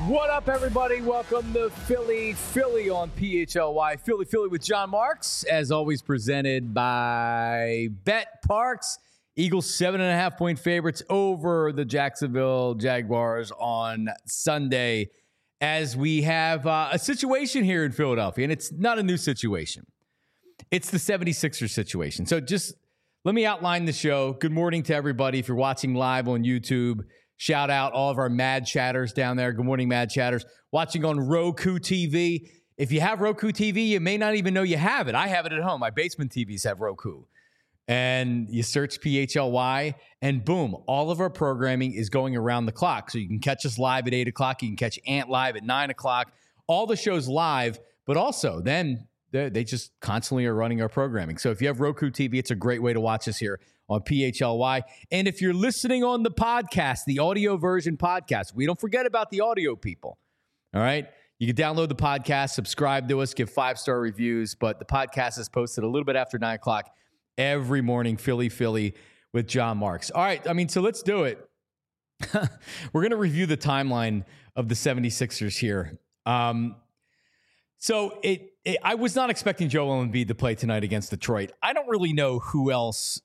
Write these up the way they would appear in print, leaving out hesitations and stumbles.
What up, everybody? Welcome to Philly on PHLY. Philly with John Marks, as always, presented by Bet Parks. Eagles 7.5-point favorites over the Jacksonville Jaguars on Sunday, as we have a situation here in Philadelphia, and it's not a new situation. It's the 76ers situation. So just let me outline the show. Good morning to everybody. If you're watching live on YouTube, shout out all of our Mad Chatters down there. Good morning, Mad Chatters. Watching on Roku TV. If you have Roku TV, you may not even know you have it. I have it at home. My basement TVs have Roku. And you search PHLY, and boom, all of our programming is going around the clock. So you can catch us live at 8 o'clock. You can catch Ant live at 9 o'clock. All the shows live, but also then they just constantly are running our programming. So if you have Roku TV, it's a great way to watch us here on PHLY. And if you're listening on the podcast, the audio version podcast, we don't forget about the audio people. All right. You can download the podcast, subscribe to us, give 5-star reviews. But the podcast is posted a little bit after 9 o'clock every morning. Philly with John Marks. All right. So let's do it. We're going to review the timeline of the 76ers here. So I was not expecting Joel Embiid to play tonight against Detroit. I don't really know who else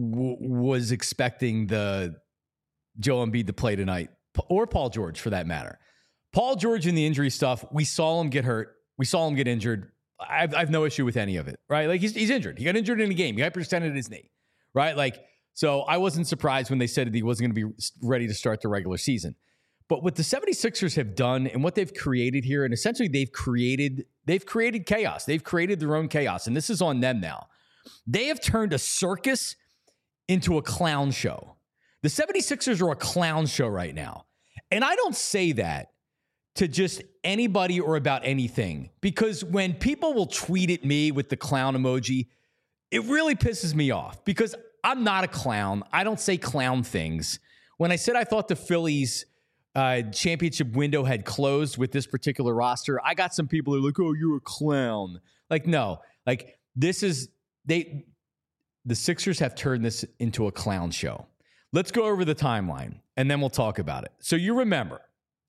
was expecting the Joel Embiid to play tonight, or Paul George for that matter. Paul George in the injury stuff, we saw him get hurt. We saw him get injured. I've no issue with any of it, right? Like he's injured. He got injured in the game. He hyperextended his knee, right? Like, so I wasn't surprised when they said that he wasn't going to be ready to start the regular season. But what the 76ers have done and what they've created here, and essentially they've created chaos. They've created their own chaos, and this is on them now. They have turned a circus into a clown show. The 76ers are a clown show right now. And I don't say that to just anybody or about anything, because when people will tweet at me with the clown emoji, it really pisses me off because I'm not a clown. I don't say clown things. When I said I thought the Phillies championship window had closed with this particular roster, I got some people who are like, oh, you're a clown. Like, no, like the Sixers have turned this into a clown show. Let's go over the timeline and then we'll talk about it. So you remember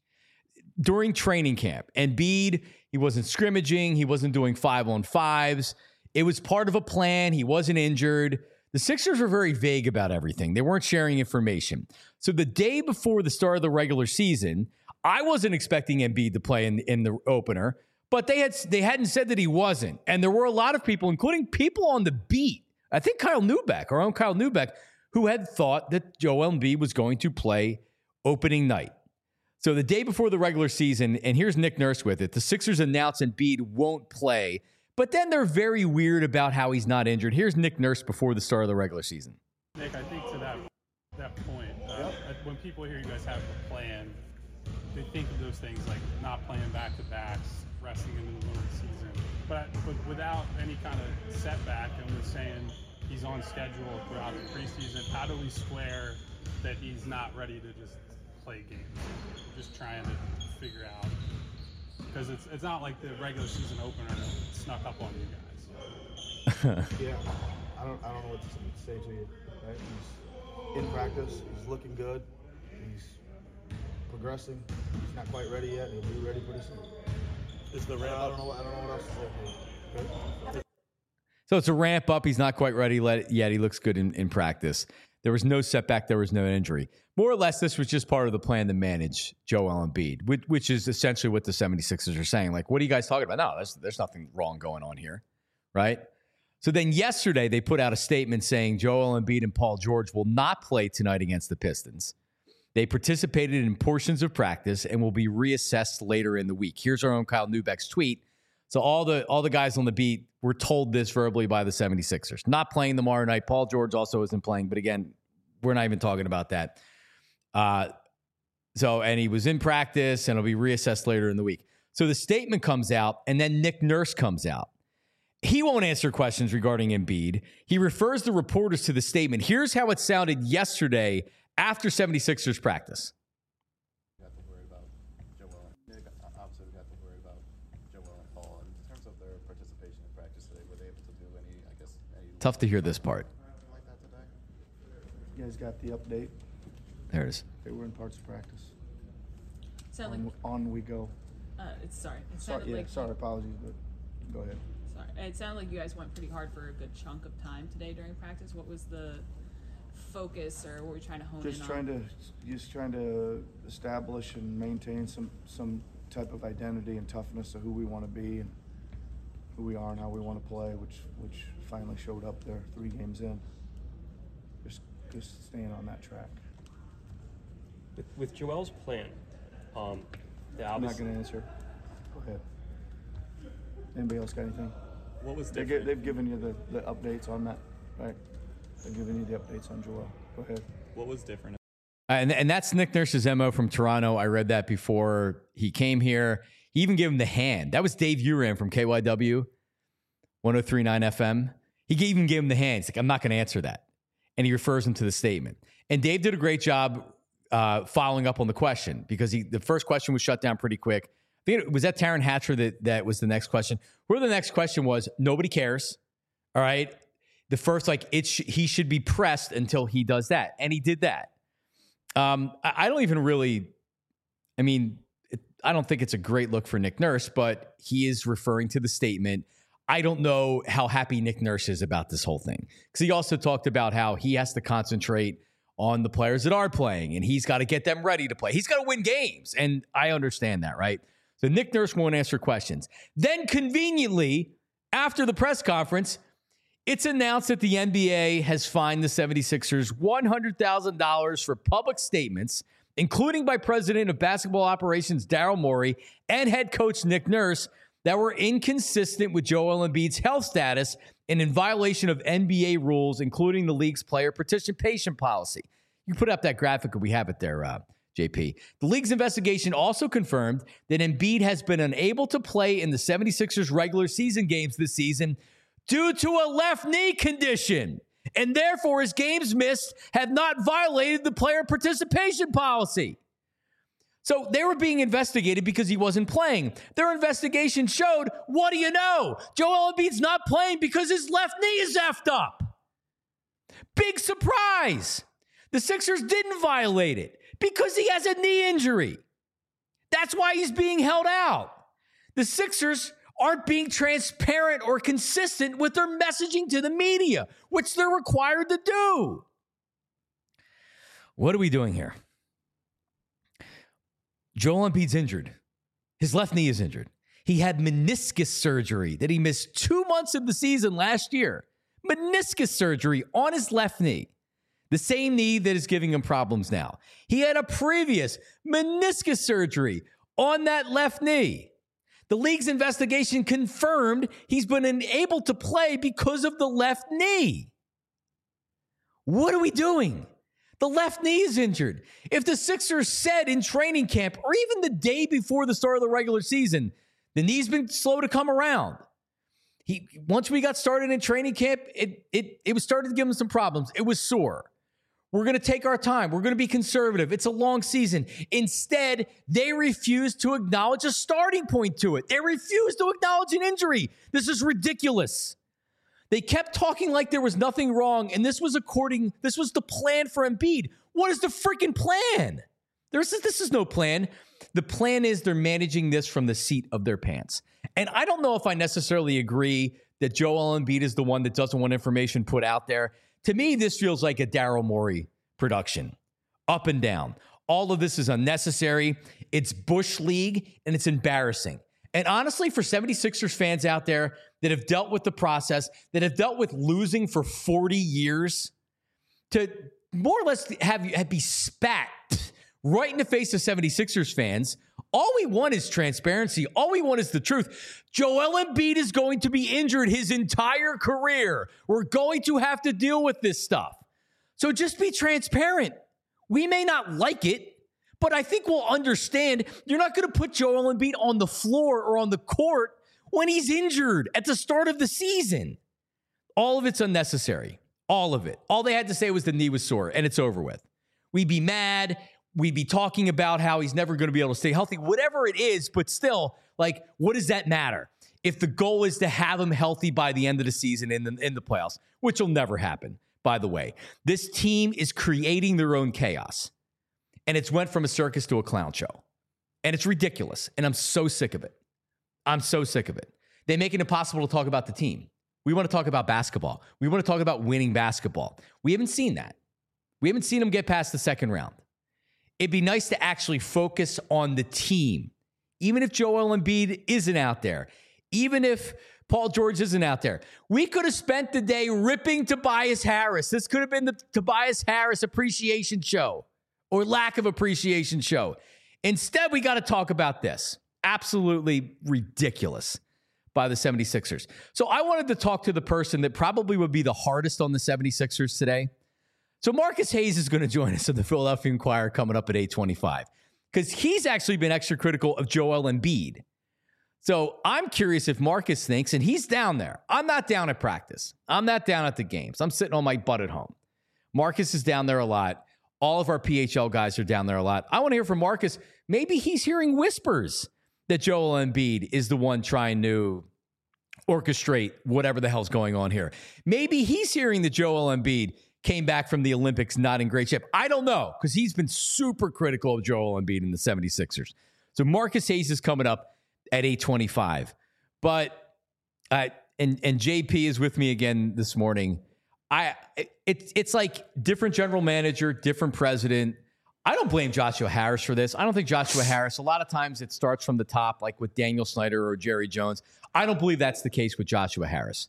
during training camp, Embiid, he wasn't scrimmaging. He wasn't doing 5-on-5s. It was part of a plan. He wasn't injured. The Sixers were very vague about everything. They weren't sharing information. So the day before the start of the regular season, I wasn't expecting Embiid to play in the opener, but they hadn't said that he wasn't. And there were a lot of people, including people on the beat, I think our own Kyle Neubeck, who had thought that Joel Embiid was going to play opening night. So the day before the regular season, and here's Nick Nurse with it, the Sixers announce Embiid won't play, but then they're very weird about how he's not injured. Here's Nick Nurse before the start of the regular season. Nick, I think to that point, when people hear you guys have a plan, they think of those things like not playing back-to-backs, resting in the middle of the season. But without any kind of setback, and we're saying he's on schedule throughout the preseason, how do we square that he's not ready to just play games? We're just trying to figure out. Because it's not like the regular season opener snuck up on you guys. Yeah, I don't know what to say to you. Right? He's in practice. He's looking good. He's progressing. He's not quite ready yet. He'll be ready pretty soon. Is the ramp? I don't know what else to say. Okay? So it's a ramp up. He's not quite ready yet. He looks good in practice. There was no setback. There was no injury. More or less, this was just part of the plan to manage Joel Embiid, which is essentially what the 76ers are saying. Like, what are you guys talking about? No, there's nothing wrong going on here, right? So then yesterday, they put out a statement saying Joel Embiid and Paul George will not play tonight against the Pistons. They participated in portions of practice and will be reassessed later in the week. Here's our own Kyle Neubeck's tweet. So all the guys on the beat were told this verbally by the 76ers. Not playing tomorrow night. Paul George also isn't playing, but again, we're not even talking about that. And he was in practice and it'll be reassessed later in the week. So the statement comes out and then Nick Nurse comes out. He won't answer questions regarding Embiid. He refers the reporters to the statement. Here's how it sounded yesterday after 76ers practice. Tough to hear this part. You guys got the update? There it is. They were in parts of practice. On we go. It sounded Sorry, apologies, but go ahead. Sorry. It sounded like you guys went pretty hard for a good chunk of time today during practice. What was the focus, or what were you trying to hone in on? Just trying to establish and maintain some type of identity and toughness of who we want to be and who we are and how we want to play, which finally showed up there 3 games in. Just staying on that track. With Joel's plan, I'm not going to answer. Go ahead. Anybody else got anything? What was different? They've given you the updates on that, right? They've given you the updates on Joel. Go ahead. What was different? And that's Nick Nurse's MO from Toronto. I read that before he came here. He even gave him the hand. That was Dave Uran from KYW 103.9 FM. He even gave him the hand. He's like, I'm not going to answer that. And he refers him to the statement. And Dave did a great job following up on the question, because the first question was shut down pretty quick. I think was that Taryn Hatcher that was the next question. Where the next question was, nobody cares. All right. The first, he should be pressed until he does that. And he did that. I don't even really, I don't think it's a great look for Nick Nurse, but he is referring to the statement. I don't know how happy Nick Nurse is about this whole thing, because he also talked about how he has to concentrate on the players that are playing, and he's got to get them ready to play. He's got to win games, and I understand that, right? So Nick Nurse won't answer questions. Then conveniently, after the press conference, it's announced that the NBA has fined the 76ers $100,000 for public statements, including by President of Basketball Operations Daryl Morey and head coach Nick Nurse, that were inconsistent with Joel Embiid's health status and in violation of NBA rules, including the league's player participation policy. You put up that graphic, and we have it there, JP. The league's investigation also confirmed that Embiid has been unable to play in the 76ers regular season games this season due to a left knee condition, and therefore his games missed have not violated the player participation policy. So they were being investigated because he wasn't playing. Their investigation showed, what do you know? Joel Embiid's not playing because his left knee is effed up. Big surprise. The Sixers didn't violate it because he has a knee injury. That's why he's being held out. The Sixers aren't being transparent or consistent with their messaging to the media, which they're required to do. What are we doing here? Joel Embiid's injured. His left knee is injured. He had meniscus surgery that he missed 2 months of the season last year. Meniscus surgery on his left knee. The same knee that is giving him problems now. He had a previous meniscus surgery on that left knee. The league's investigation confirmed he's been unable to play because of the left knee. What are we doing? The left knee is injured. If the Sixers said in training camp, or even the day before the start of the regular season, the knee's been slow to come around. Once we got started in training camp, it was starting to give him some problems. It was sore. We're going to take our time. We're going to be conservative. It's a long season. Instead, they refused to acknowledge a starting point to it. They refused to acknowledge an injury. This is ridiculous. They kept talking like there was nothing wrong, and this was the plan for Embiid. What is the freaking plan? This is no plan. The plan is they're managing this from the seat of their pants. And I don't know if I necessarily agree that Joel Embiid is the one that doesn't want information put out there. To me, this feels like a Daryl Morey production, up and down. All of this is unnecessary. It's Bush League, and it's embarrassing. And honestly, for 76ers fans out there that have dealt with the process, that have dealt with losing for 40 years, to more or less be spat right in the face of 76ers fans, all we want is transparency. All we want is the truth. Joel Embiid is going to be injured his entire career. We're going to have to deal with this stuff. So just be transparent. We may not like it, but I think we'll understand you're not going to put Joel Embiid on the floor or on the court when he's injured at the start of the season. All of it's unnecessary. All of it. All they had to say was the knee was sore, and it's over with. We'd be mad. We'd be talking about how he's never going to be able to stay healthy, whatever it is, but still, what does that matter? If the goal is to have him healthy by the end of the season in the playoffs, which will never happen, by the way. This team is creating their own chaos. And it's went from a circus to a clown show. And it's ridiculous. And I'm so sick of it. I'm so sick of it. They make it impossible to talk about the team. We want to talk about basketball. We want to talk about winning basketball. We haven't seen that. We haven't seen them get past the second round. It'd be nice to actually focus on the team. Even if Joel Embiid isn't out there, even if Paul George isn't out there, we could have spent the day ripping Tobias Harris. This could have been the Tobias Harris appreciation show or lack of appreciation show. Instead, we got to talk about this. Absolutely ridiculous by the 76ers. So I wanted to talk to the person that probably would be the hardest on the 76ers today. So Marcus Hayes is going to join us in the Philadelphia Inquirer coming up at 8:25 because he's actually been extra critical of Joel Embiid. So I'm curious if Marcus thinks, and he's down there. I'm not down at practice. I'm not down at the games. I'm sitting on my butt at home. Marcus is down there a lot. All of our PHL guys are down there a lot. I want to hear from Marcus. Maybe he's hearing whispers that Joel Embiid is the one trying to orchestrate whatever the hell's going on here. Maybe he's hearing that Joel Embiid came back from the Olympics not in great shape. I don't know, because he's been super critical of Joel Embiid in the 76ers. So Marcus Hayes is coming up at 8:25. But and JP is with me again this morning. It's like different general manager, different president. I don't blame Joshua Harris for this. I don't think Joshua Harris, a lot of times it starts from the top, like with Daniel Snyder or Jerry Jones. I don't believe that's the case with Joshua Harris.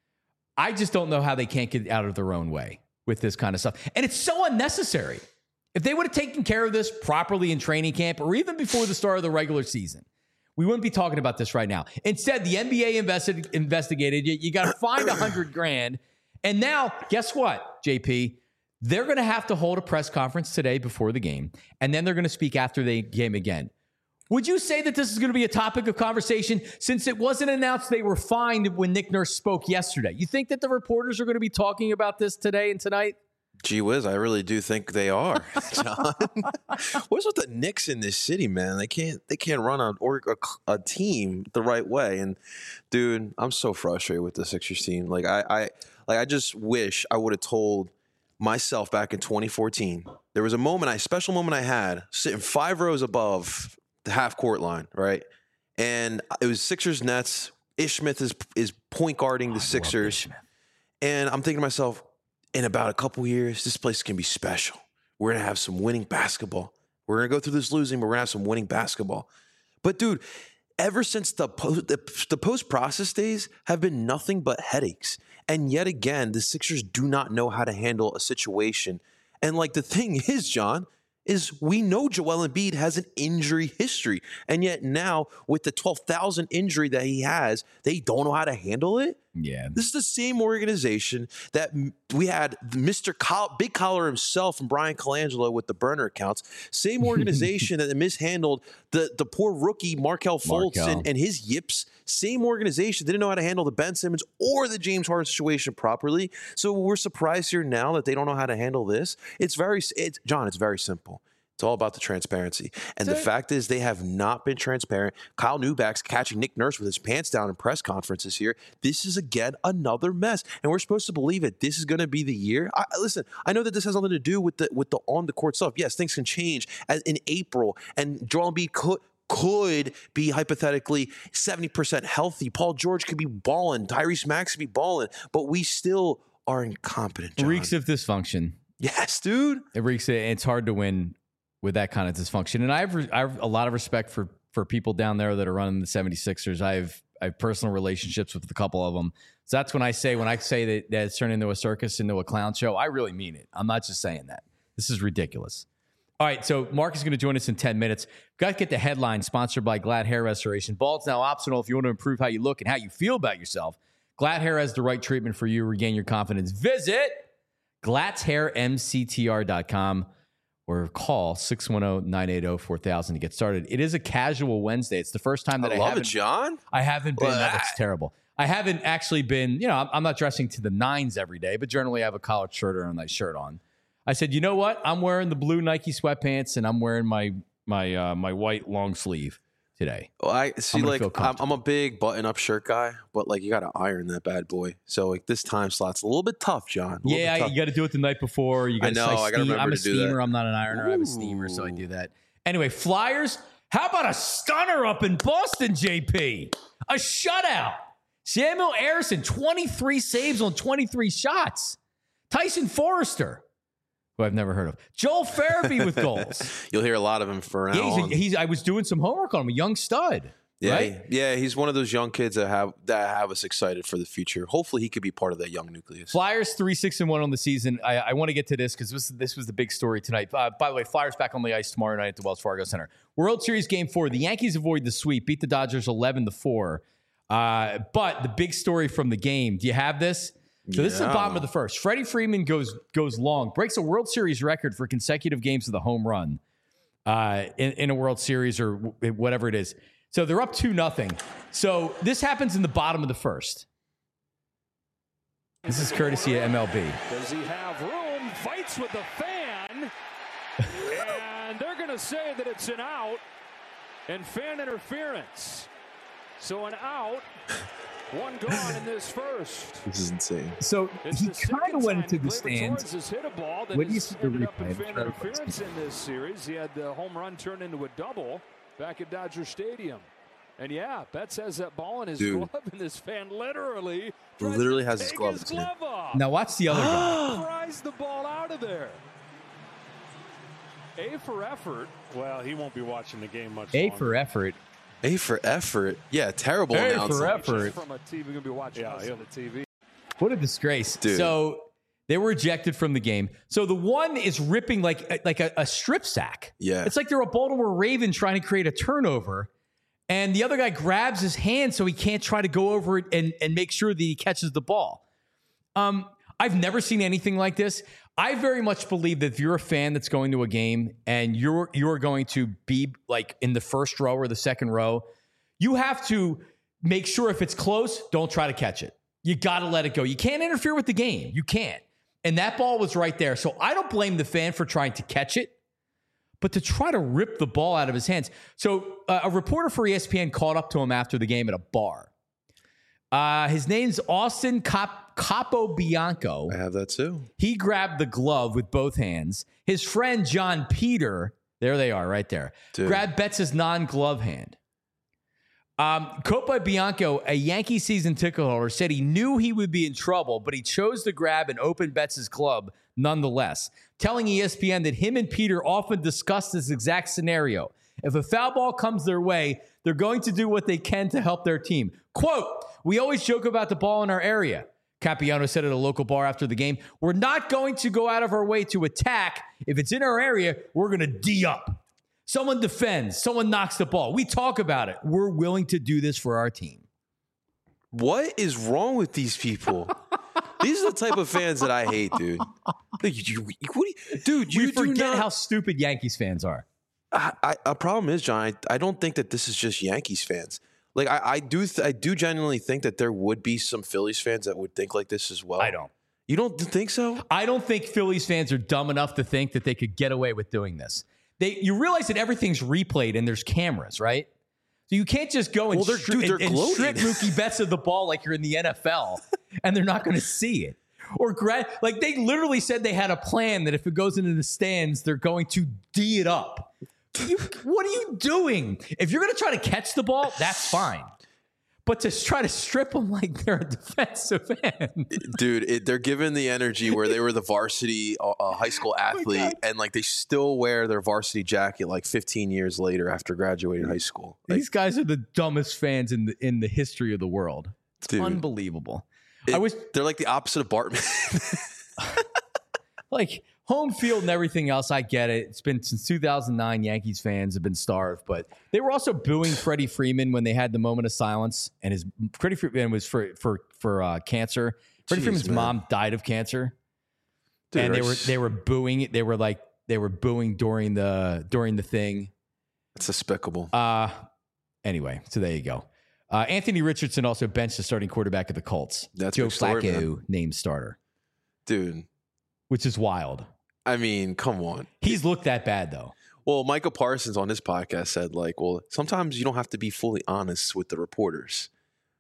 I just don't know how they can't get out of their own way with this kind of stuff. And it's so unnecessary. If they would have taken care of this properly in training camp or even before the start of the regular season, we wouldn't be talking about this right now. Instead, the NBA investigated you. You got to find $100,000. And now, guess what, JP? They're going to have to hold a press conference today before the game, and then they're going to speak after the game again. Would you say that this is going to be a topic of conversation since it wasn't announced they were fined when Nick Nurse spoke yesterday? You think that the reporters are going to be talking about this today and tonight? Gee whiz, I really do think they are, John. What's with the Knicks in this city, man? They can't run a team the right way. And dude, I'm so frustrated with the Sixers team. Like I just wish I would have told myself back in 2014. There was a special moment I had sitting 5 rows above the half court line, right? And it was Sixers Nets. Ish Smith is point guarding the Sixers. And I'm thinking to myself, in about a couple years, this place can be special. We're going to have some winning basketball. We're going to go through this losing, but we're going to have some winning basketball. But dude, ever since the post-process days have been nothing but headaches. And yet again, the Sixers do not know how to handle a situation. And like the thing is, John, is we know Joel Embiid has an injury history. And yet now with the 12,000 injury that he has, they don't know how to handle it. Yeah. This is the same organization that we had Mr. Big Collar himself and Brian Colangelo with the burner accounts. Same organization that mishandled the poor rookie Markelle Fultz and his yips. Same organization didn't know how to handle the Ben Simmons or the James Harden situation properly. So we're surprised here now that they don't know how to handle this. John, it's very simple. It's all about the transparency. And the fact is they have not been transparent. Kyle Neuback's catching Nick Nurse with his pants down in press conferences here. This is, again, another mess. And we're supposed to believe it. This is going to be the year. Listen, I know that this has nothing to do with the on-the-court stuff. Yes, things can change in April. And Joel Embiid could be hypothetically 70% healthy. Paul George could be balling. Tyrese Maxey could be balling. But we still are incompetent, John. It reeks of dysfunction. Yes, dude. It's hard to win with that kind of dysfunction. And I have a lot of respect for people down there that are running the 76ers. I have personal relationships with a couple of them. So that's when I say that it's turned into a circus, into a clown show, I really mean it. I'm not just saying that. This is ridiculous. All right, so Mark is going to join us in 10 minutes. Got to get the headline, sponsored by Glad Hair Restoration. Bald's now optional if you want to improve how you look and how you feel about yourself. Glad Hair has the right treatment for you. Regain your confidence. Visit glatzhairmctr.com. or call 610-980-4000 to get started. It is a casual Wednesday. It's the first time that I love it, John. I haven't been. That's terrible. I haven't actually been, I'm not dressing to the nines every day, but generally I have a collared shirt or a nice shirt on. I said, you know what? I'm wearing the blue Nike sweatpants and I'm wearing my white long sleeve today. Well, I'm a big button-up shirt guy, but like you got to iron that bad boy. So like this time slot's a little bit tough, John. You got to do it the night before. You got I got to remember I'm a to do that. steamer. I'm not an ironer. I have a steamer, so I do that. Anyway, Flyers How about a stunner up in Boston, JP? A shutout. Samuel Harrison, 23 saves on 23 shots. Tyson Forrester, who I've never heard of. Joel Farabee with goals. You'll hear a lot of him for now on. I was doing some homework on him, a young stud. Yeah, right? yeah, he's one of those young kids that have us excited for the future. Hopefully, he could be part of that young nucleus. Flyers 3-6-1 on the season. I want to get to this because this was the big story tonight. By the way, Flyers back on the ice tomorrow night at the Wells Fargo Center. World Series Game 4. The Yankees avoid the sweep, beat the Dodgers 11-4. But the big story from the game. Do you have this? So this is the bottom of the first. Freddie Freeman goes long, breaks a World Series record for consecutive games of the home run in a World Series or whatever it is. So they're up 2-0. So this happens in the bottom of the first. This is courtesy of MLB. Does he have room? Fights with the fan. And they're going to say that it's an out and fan interference. So an out, one gone in this first. This is insane. So It's he the second kind of went time into the Gleyber stands. Torres has hit a ball that What do you has see the ended up in replay? fan interference in this series. He had the home run turn into a double back at Dodger Stadium. And yeah, Betts has that ball in his glove, and this fan literally has his glove off. Now watch the other guy. Pries the ball out of there. A for effort. Well, he won't be watching the game much A longer. for effort. A for effort. Yeah, terrible A announcing. for effort. From a TV, going to be watching us on the TV. What a disgrace. Dude. So they were ejected from the game. So the one is ripping like a strip sack. Yeah. It's like they're a Baltimore Raven trying to create a turnover. And the other guy grabs his hand so he can't try to go over it and make sure that he catches the ball. I've never seen anything like this. I very much believe that if you're a fan that's going to a game and you're going to be like in the first row or the second row, you have to make sure if it's close, don't try to catch it. You got to let it go. You can't interfere with the game. You can't. And that ball was right there. So I don't blame the fan for trying to catch it, but to try to rip the ball out of his hands. So a reporter for ESPN caught up to him after the game at a bar. His name's Austin Capobianco. I have that too. He grabbed the glove with both hands. His friend John Peter, there they are right there, grabbed Betts' non-glove hand. Copa Bianco, a Yankee season ticket holder, said he knew he would be in trouble, but he chose to grab and open Betts' glove nonetheless, telling ESPN that him and Peter often discussed this exact scenario. If a foul ball comes their way, they're going to do what they can to help their team. Quote, "We always joke about the ball in our area." Capiano said at a local bar after the game, "We're not going to go out of our way to attack. If it's in our area, we're going to D up. Someone defends, someone knocks the ball. We talk about it. We're willing to do this for our team." What is wrong with these people? These are the type of fans that I hate, dude. You forget how stupid Yankees fans are. A problem is, John, I don't think that this is just Yankees fans. Like I do genuinely think that there would be some Phillies fans that would think like this as well. I don't. You don't think so? I don't think Phillies fans are dumb enough to think that they could get away with doing this. You realize that everything's replayed and there's cameras, right? So you can't just go and, they're strip gloating. Mookie Betts of the ball like you're in the NFL and they're not going to see it. Or like they literally said they had a plan that if it goes into the stands, they're going to D it up. What are you doing? If you're going to try to catch the ball, that's fine. But to try to strip them like they're a defensive end. Dude, they're given the energy where they were the varsity high school athlete and like they still wear their varsity jacket like 15 years later after graduating high school. Like, these guys are the dumbest fans in the history of the world. It's dude, unbelievable. They're like the opposite of Bartman. Like home field and everything else, I get it. It's been since 2009. Yankees fans have been starved, but they were also booing Freddie Freeman when they had the moment of silence, and Freddie Freeman was for cancer. Freddie Freeman's mom died of cancer, dude, and they were booing it. They were booing during the thing. It's despicable. Anyway, so there you go. Anthony Richardson also benched the starting quarterback of the Colts. That's Joe big story, Flacco named starter, dude. Which is wild. I mean, come on. He's looked that bad, though. Well, Michael Parsons on his podcast said, like, well, sometimes you don't have to be fully honest with the reporters.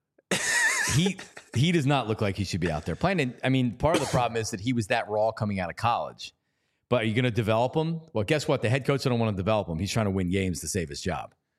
He does not look like he should be out there playing. And, I mean, part of the problem is that he was that raw coming out of college. But are you going to develop him? Well, guess what? The head coach don't want to develop him. He's trying to win games to save his job.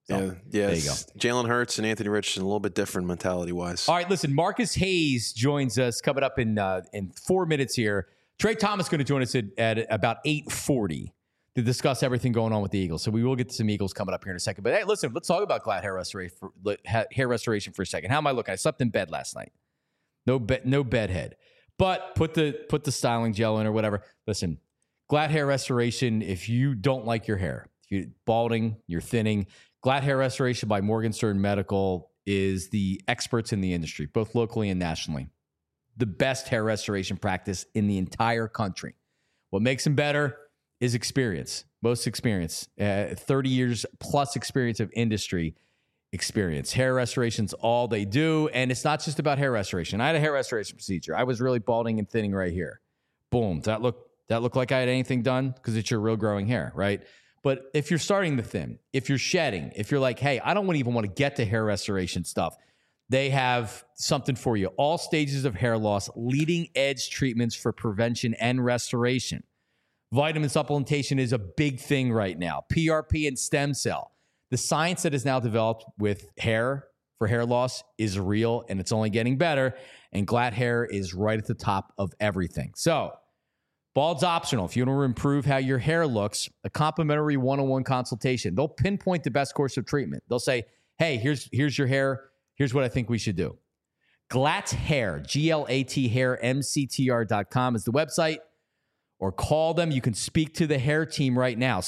Yeah. There you go. Jalen Hurts and Anthony Richardson, a little bit different mentality-wise. All right, listen, Marcus Hayes joins us coming up in 4 minutes here. Trey Thomas going to join us at about 8:40 to discuss everything going on with the Eagles. So we will get to some Eagles coming up here in a second. But hey, listen, let's talk about Glad hair restoration for a second. How am I looking? I slept in bed last night. No bed head. But put the styling gel in or whatever. Listen, Glad hair restoration, if you don't like your hair, if you're balding, you're thinning, Glad hair restoration by Morgenstern Medical is the experts in the industry, both locally and nationally. The best hair restoration practice in the entire country. What makes them better is experience, most experience, 30 years plus experience of industry experience. Hair restoration's all they do, and it's not just about hair restoration. I had a hair restoration procedure. I was really balding and thinning right here. Boom. Does that look like I had anything done? Because it's your real growing hair, right? But if you're starting to thin, if you're shedding, if you're like, hey, I don't even want to get to hair restoration stuff, they have something for you. All stages of hair loss, leading edge treatments for prevention and restoration. Vitamin supplementation is a big thing right now. PRP and stem cell. The science that is now developed with hair for hair loss is real, and it's only getting better. And Glad hair is right at the top of everything. So, bald's optional. If you want to improve how your hair looks, a complimentary one-on-one consultation. They'll pinpoint the best course of treatment. They'll say, hey, here's your hair. Here's what I think we should do. Glatt Hair, G-L-A-T hair, MCTR.com is the website. Or call them. You can speak to the hair team right now.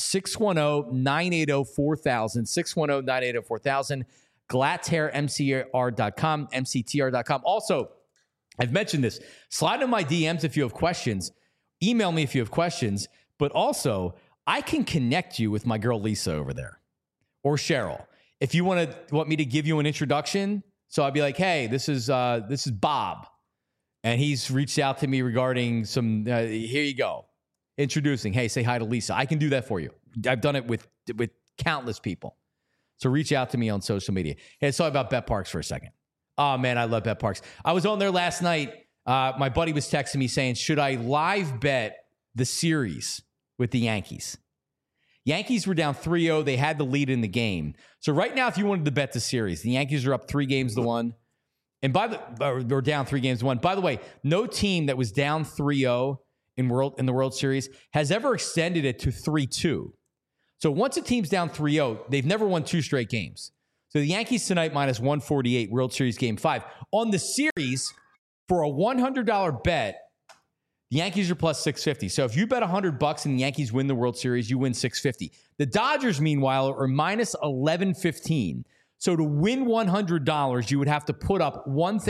610-980-4000, 610-980-4000, GlattHairMCTR.com, MCTR.com. Also, I've mentioned this. Slide in my DMs if you have questions. Email me if you have questions. But also, I can connect you with my girl Lisa over there or Cheryl. If you want me to give you an introduction, so I'd be like, hey, this is Bob. And he's reached out to me regarding some, here you go, introducing, hey, say hi to Lisa. I can do that for you. I've done it with countless people. So reach out to me on social media. Hey, let's talk about BetParx for a second. Oh, man, I love BetParx. I was on there last night. My buddy was texting me saying, should I live bet the series with the Yankees? Yankees were down 3-0. They had the lead in the game. So right now, if you wanted to bet the series, the Yankees are up 3-1. And they're down 3-1. By the way, no team that was down 3-0 in the World Series has ever extended it to 3-2. So once a team's down 3-0, they've never won 2 straight games. So the Yankees tonight minus 148, World Series Game 5. On the series, for a $100 bet, the Yankees are plus 650. So if you bet $100 and the Yankees win the World Series, you win 650. The Dodgers, meanwhile, are minus 1115. So to win $100, you would have to put up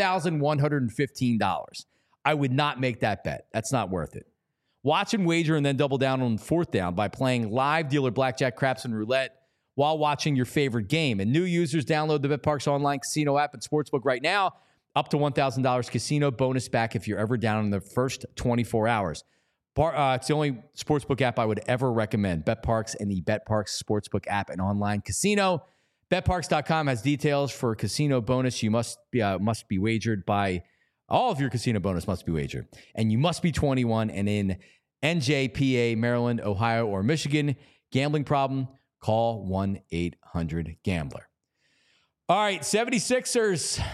$1,115. I would not make that bet. That's not worth it. Watch and wager and then double down on fourth down by playing live dealer blackjack, craps, and roulette while watching your favorite game. And new users download the BetParx online casino app and sportsbook right now. Up to $1,000 casino bonus back if you're ever down in the first 24 hours. It's the only sportsbook app I would ever recommend. BetParx and the BetParx sportsbook app and online casino. BetParx.com has details for casino bonus. You must be wagered by all of your casino bonus must be wagered. And you must be 21 and in NJPA, Maryland, Ohio, or Michigan. Gambling problem? Call 1-800-GAMBLER. All right, 76ers.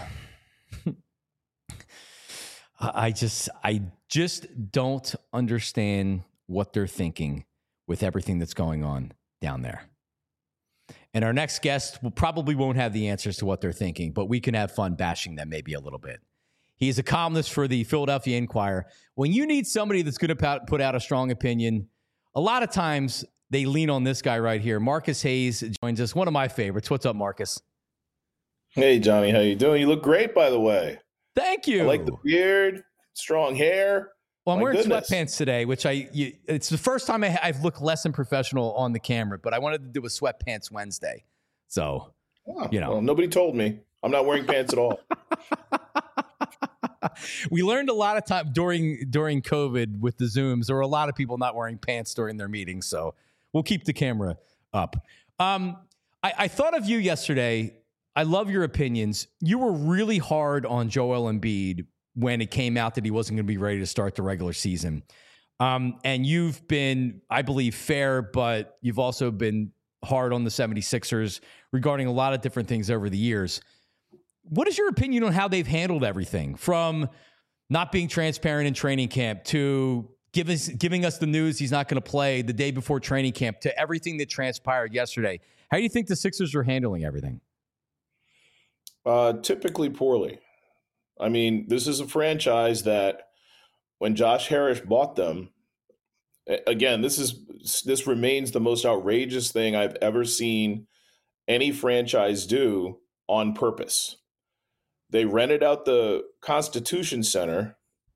I just don't understand what they're thinking with everything that's going on down there. And our next guest probably won't have the answers to what they're thinking, but we can have fun bashing them maybe a little bit. He's a columnist for the Philadelphia Inquirer. When you need somebody that's going to put out a strong opinion, a lot of times they lean on this guy right here. Marcus Hayes joins us, one of my favorites. What's up, Marcus? Hey, Johnny. How you doing? You look great, by the way. Thank you. I like the beard, strong hair. Well, I'm wearing sweatpants today, which it's the first time I've looked less than professional on the camera, but I wanted to do a sweatpants Wednesday. So, Well, nobody told me. I'm not wearing pants at all. We learned a lot of time during COVID with the Zooms. There were a lot of people not wearing pants during their meetings, so we'll keep the camera up. I thought of you yesterday. I love your opinions. You were really hard on Joel Embiid when it came out that he wasn't going to be ready to start the regular season. And you've been, I believe, fair, but you've also been hard on the 76ers regarding a lot of different things over the years. What is your opinion on how they've handled everything, from not being transparent in training camp to giving us the news he's not going to play the day before training camp to everything that transpired yesterday? How do you think the Sixers are handling everything? Typically poorly. I mean, this is a franchise that when Josh Harris bought them, again, this remains the most outrageous thing I've ever seen any franchise do on purpose. They rented out the Constitution Center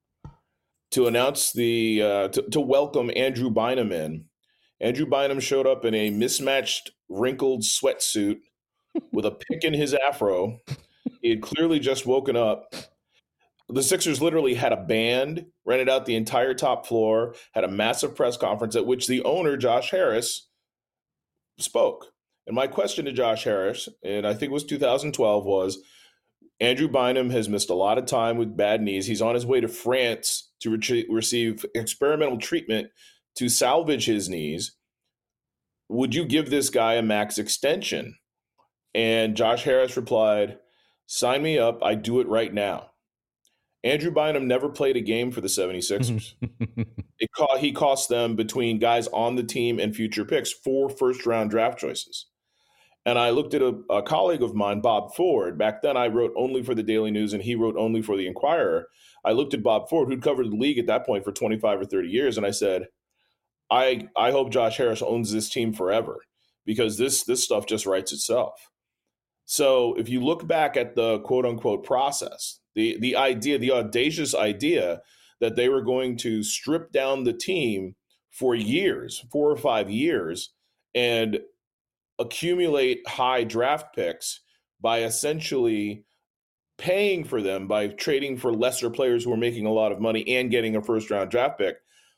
to announce to welcome Andrew Bynum in. Andrew Bynum showed up in a mismatched, wrinkled sweatsuit with a pick in his afro. He had clearly just woken up. The Sixers literally had a band, rented out the entire top floor, had a massive press conference at which the owner, Josh Harris, spoke. And my question to Josh Harris, and I think it was 2012, was Andrew Bynum has missed a lot of time with bad knees. He's on his way to France to receive experimental treatment to salvage his knees. Would you give this guy a max extension? And Josh Harris replied, "Sign me up. I do it right now." Andrew Bynum never played a game for the 76ers. He cost them, between guys on the team and future picks, 4 first-round draft choices. And I looked at a colleague of mine, Bob Ford. Back then, I wrote only for the Daily News, and he wrote only for the Inquirer. I looked at Bob Ford, who'd covered the league at that point for 25 or 30 years, and I said, I hope Josh Harris owns this team forever, because this stuff just writes itself. So if you look back at the quote-unquote process, the idea, the audacious idea that they were going to strip down the team for years, 4 or 5 years, and accumulate high draft picks by essentially paying for them by trading for lesser players who were making a lot of money and getting a first-round draft pick,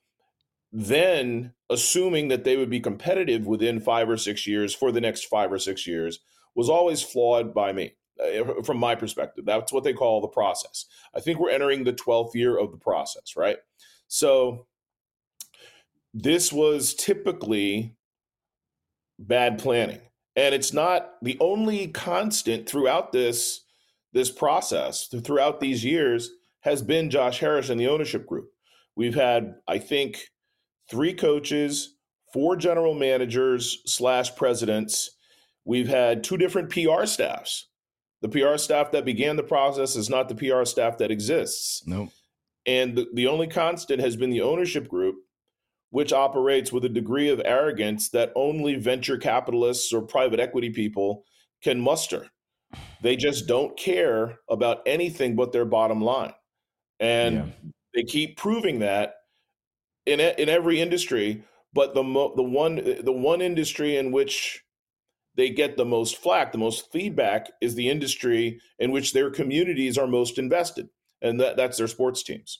then assuming that they would be competitive within 5 or 6 years for the next 5 or 6 years, was always flawed by me, from my perspective. That's what they call the process. I think we're entering the 12th year of the process, right? So this was typically bad planning. And it's not the only constant throughout this process, throughout these years, has been Josh Harris and the ownership group. We've had, I think, 3 coaches, 4 general managers / presidents. We've had 2 different PR staffs. The PR staff that began the process is not the PR staff that exists. Nope. And the only constant has been the ownership group, which operates with a degree of arrogance that only venture capitalists or private equity people can muster. They just don't care about anything but their bottom line. And they keep proving that in every industry, but the one industry in which they get the most flack, the most feedback, is the industry in which their communities are most invested, and that's their sports teams.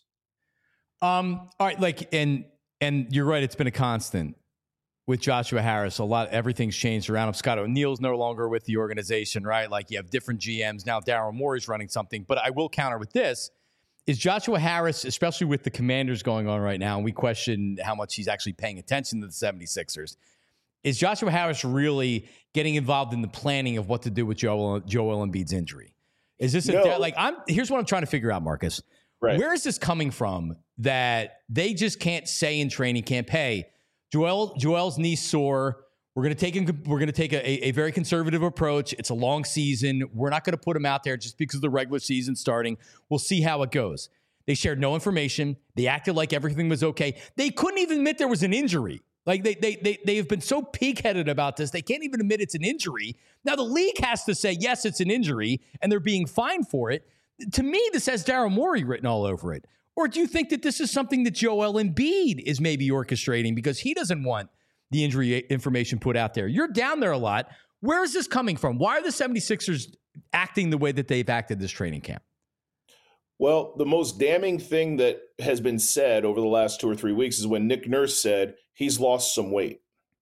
All right, and you're right, it's been a constant with Joshua Harris. Everything's changed around him. Scott O'Neill's no longer with the organization, right? Like, you have different GMs now. Daryl Morey's running something, but I will counter with this: is Joshua Harris, especially with the Commanders going on right now, and we question how much he's actually paying attention to the 76ers. Is Joshua Harris really getting involved in the planning of what to do with Joel Embiid's injury? Is this here's what I'm trying to figure out, Marcus. Right. Where is this coming from that they just can't say in training camp, "Hey, Joel's knee sore. We're going to take a very conservative approach. It's a long season. We're not going to put him out there just because of the regular season starting. We'll see how it goes." They shared no information. They acted like everything was okay. They couldn't even admit there was an injury. Like, they have been so pig-headed about this, they can't even admit it's an injury. Now the league has to say, yes, it's an injury, and they're being fined for it. To me, this has Daryl Morey written all over it. Or do you think that this is something that Joel Embiid is maybe orchestrating because he doesn't want the injury information put out there? You're down there a lot. Where is this coming from? Why are the 76ers acting the way that they've acted this training camp? Well, the most damning thing that has been said over the last 2 or 3 weeks is when Nick Nurse said he's lost some weight.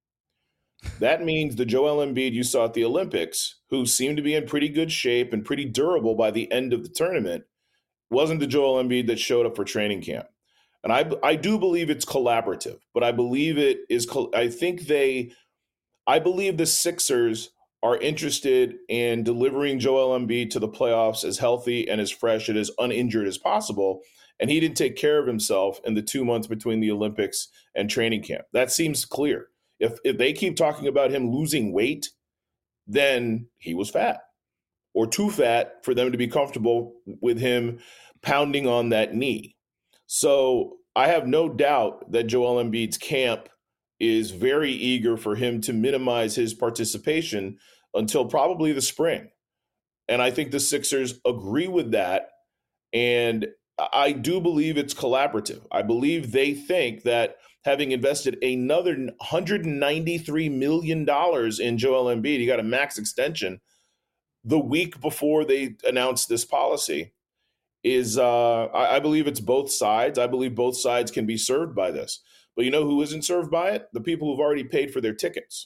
That means the Joel Embiid you saw at the Olympics, who seemed to be in pretty good shape and pretty durable by the end of the tournament, wasn't the Joel Embiid that showed up for training camp. And I do believe it's collaborative, but I believe it is. I think they I believe the Sixers are interested in delivering Joel Embiid to the playoffs as healthy and as fresh and as uninjured as possible. And he didn't take care of himself in the 2 months between the Olympics and training camp. That seems clear. If they keep talking about him losing weight, then he was fat or too fat for them to be comfortable with him pounding on that knee. So I have no doubt that Joel Embiid's camp is very eager for him to minimize his participation until probably the spring. And I think the Sixers agree with that. And I do believe it's collaborative. I believe they think that having invested another $193 million in Joel Embiid, he got a max extension the week before they announced this policy, is I believe it's both sides. I believe both sides can be served by this. But you know who isn't served by it? The people who've already paid for their tickets.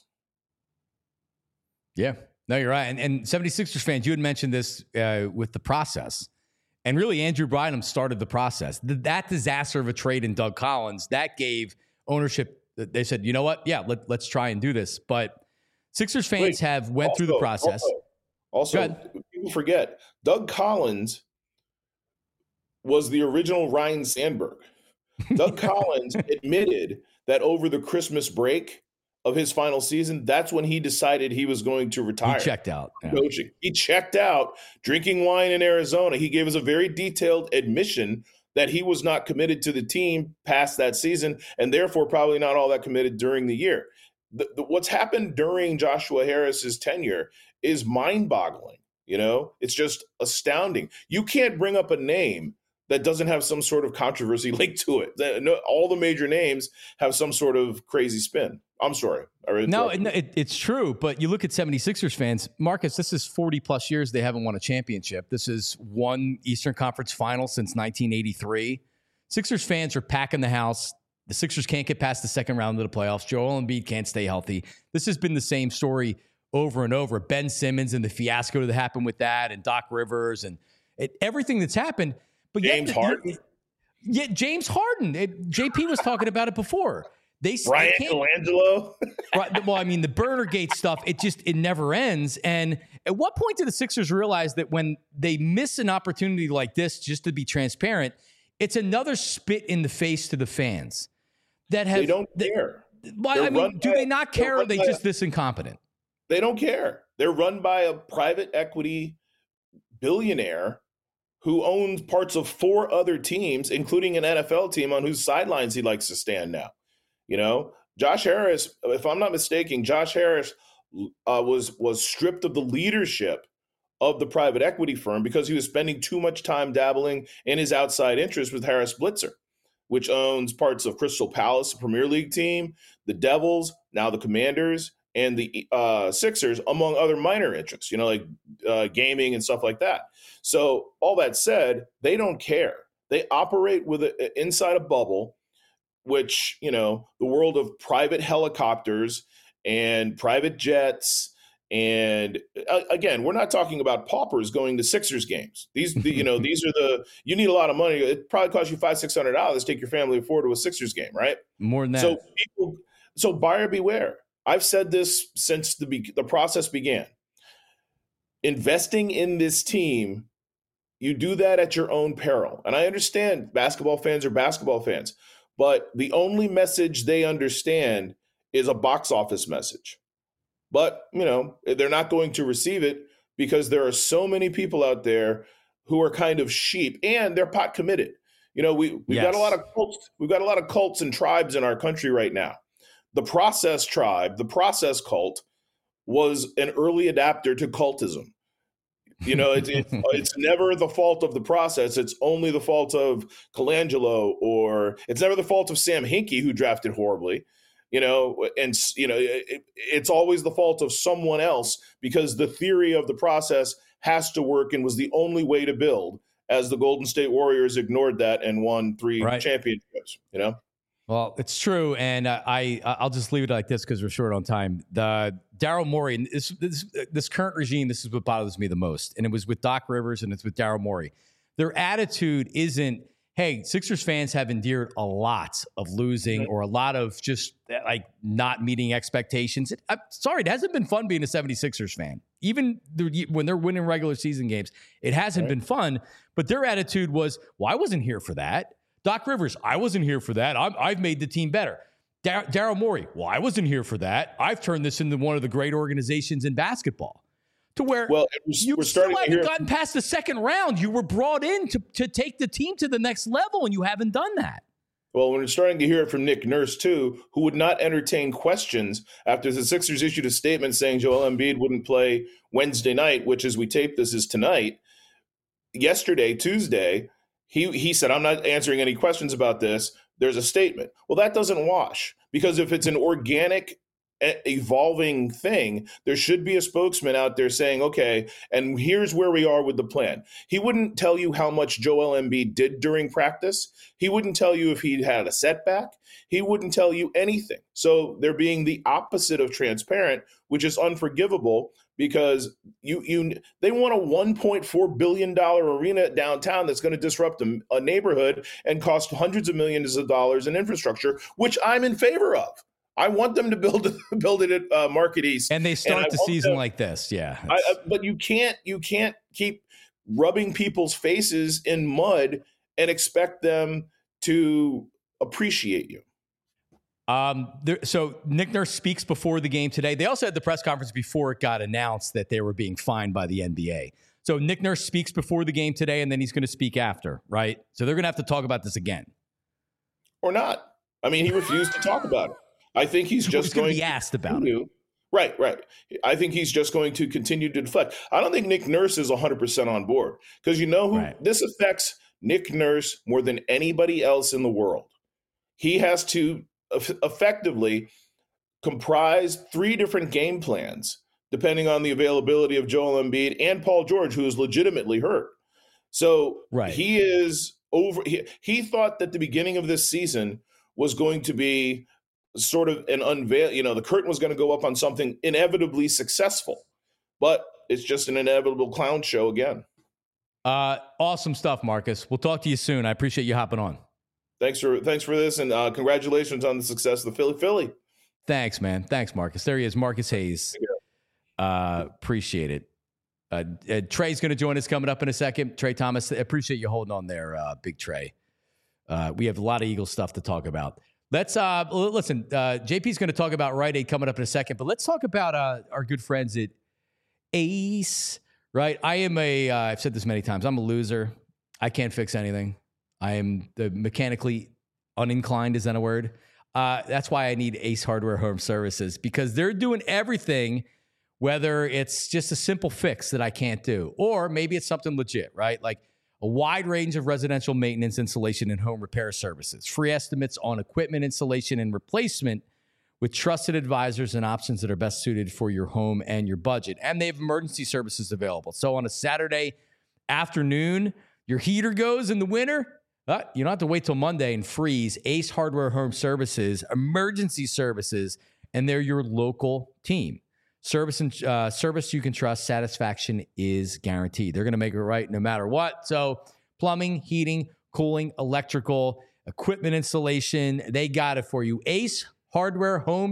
Yeah, no, you're right. And 76ers fans, you had mentioned this with the process. And really, Andrew Bynum started the process. That disaster of a trade in Doug Collins, that gave ownership. They said, you know what? Yeah, let's try and do this. But Sixers fans went through the process. Also, people forget, Doug Collins was the original Ryan Sandberg. Doug Collins admitted that over the Christmas break of his final season, that's when he decided he was going to retire. He checked out. Yeah. Coaching. He checked out, drinking wine in Arizona. He gave us a very detailed admission that he was not committed to the team past that season, and therefore probably not all that committed during the year. What's happened during Joshua Harris's tenure is mind-boggling. You know, it's just astounding. You can't bring up a name that doesn't have some sort of controversy linked to it. All the major names have some sort of crazy spin. I'm sorry. No, it's true. But you look at 76ers fans, Marcus, this is 40 plus years they haven't won a championship. This is one Eastern Conference final since 1983. Sixers fans are packing the house. The Sixers can't get past the second round of the playoffs. Joel Embiid can't stay healthy. This has been the same story over and over. Ben Simmons and the fiasco that happened with that, and Doc Rivers and everything that's happened. But James Harden. Yeah, James Harden. JP was talking about it before. Brian Colangelo. Right, well, I mean, the Burnergate stuff, it never ends. And at what point do the Sixers realize that when they miss an opportunity like this, just to be transparent, it's another spit in the face to the fans that have. They don't care. Well, I mean, do they not care, or are they just this incompetent? They don't care. They're run by a private equity billionaire who owns parts of 4 other teams, including an NFL team on whose sidelines he likes to stand now. You know, Josh Harris, if I'm not mistaken, Josh Harris was stripped of the leadership of the private equity firm because he was spending too much time dabbling in his outside interest with Harris Blitzer, which owns parts of Crystal Palace, a Premier League team, the Devils, now the Commanders, and the Sixers, among other minor interests, you know, like gaming and stuff like that. So all that said, they don't care. They operate inside a bubble, which, you know, the world of private helicopters and private jets. And again, we're not talking about paupers going to Sixers games. These are you need a lot of money. It probably costs you $500-$600 to take your family forward to a Sixers game, right? More than that. So buyer beware. I've said this since the process began. Investing in this team, you do that at your own peril. And I understand basketball fans are basketball fans, but the only message they understand is a box office message. But, you know, they're not going to receive it because there are so many people out there who are kind of sheep, and they're pot committed. You know, we've got a lot of cults. We've got a lot of cults and tribes in our country right now. The process tribe, the process cult, was an early adapter to cultism. You know, it's never the fault of the process. It's only the fault of Colangelo, or it's never the fault of Sam Hinkie, who drafted horribly. You know, and, you know, it's always the fault of someone else because the theory of the process has to work and was the only way to build, as the Golden State Warriors ignored that and won 3 championships, you know? Well, it's true. And I'll just leave it like this because we're short on time. The Daryl Morey, this current regime, this is what bothers me the most. And it was with Doc Rivers and it's with Daryl Morey. Their attitude isn't, hey, Sixers fans have endured a lot of losing or a lot of just like not meeting expectations. I'm sorry, it hasn't been fun being a 76ers fan. Even when they're winning regular season games, it hasn't been fun. But their attitude was, well, I wasn't here for that. Doc Rivers, I wasn't here for that. I've made the team better. Daryl Morey, well, I wasn't here for that. I've turned this into one of the great organizations in basketball. To where you still haven't gotten past the second round. You were brought in to take the team to the next level, and you haven't done that. Well, we're starting to hear it from Nick Nurse, too, who would not entertain questions after the Sixers issued a statement saying Joel Embiid wouldn't play Wednesday night, which, as we tape this, is tonight. Yesterday, Tuesday, he said, I'm not answering any questions about this. There's a statement. Well, that doesn't wash, because if it's an organic evolving thing, there should be a spokesman out there saying, okay, and here's where we are with the plan. He wouldn't tell you how much Joel Embiid did during practice. He wouldn't tell you if he had a setback. He wouldn't tell you anything. So they're being the opposite of transparent, which is unforgivable, because they want a $1.4 billion arena downtown that's going to disrupt a neighborhood and cost hundreds of millions of dollars in infrastructure, which I'm in favor of. I want them to build it at Market East, and they start the season like this. Yeah, but you can't keep rubbing people's faces in mud and expect them to appreciate you. So Nick Nurse speaks before the game today. They also had the press conference before it got announced that they were being fined by the NBA. So Nick Nurse speaks before the game today, and then he's going to speak after, right? So they're going to have to talk about this again, or not. I mean, he refused to talk about it. I think he's just going to be asked about it. Right. I think he's just going to continue to deflect. I don't think Nick Nurse is 100% on board, because this affects Nick Nurse more than anybody else in the world. He has to effectively comprise 3 different game plans, depending on the availability of Joel Embiid and Paul George, who is legitimately hurt. So he is over. He thought that the beginning of this season was going to be sort of an unveil, the curtain was going to go up on something inevitably successful, but it's just an inevitable clown show again. Awesome stuff, Marcus. We'll talk to you soon. I appreciate you hopping on. Thanks for this, and congratulations on the success of the Philly. Thanks, man. Thanks, Marcus. There he is, Marcus Hayes. Appreciate it. Trey's going to join us coming up in a second. Trey Thomas, appreciate you holding on there, Big Trey. We have a lot of Eagles stuff to talk about. Let's listen. JP's going to talk about Rite Aid coming up in a second, but let's talk about our good friends at Ace. Right, I've said this many times. I'm a loser. I can't fix anything. I am mechanically uninclined. Is that a word? That's why I need Ace Hardware Home Services, because they're doing everything. Whether it's just a simple fix that I can't do, or maybe it's something legit, right? Like a wide range of residential maintenance, installation, and home repair services. Free estimates on equipment installation and replacement with trusted advisors and options that are best suited for your home and your budget. And they have emergency services available. So on a Saturday afternoon, your heater goes in the winter, you don't have to wait till Monday and freeze. Ace Hardware Home Services, emergency services, and they're your local team. Service you can trust. Satisfaction is guaranteed. They're going to make it right no matter what. So plumbing, heating, cooling, electrical, equipment installation, they got it for you. Ace Hardware Home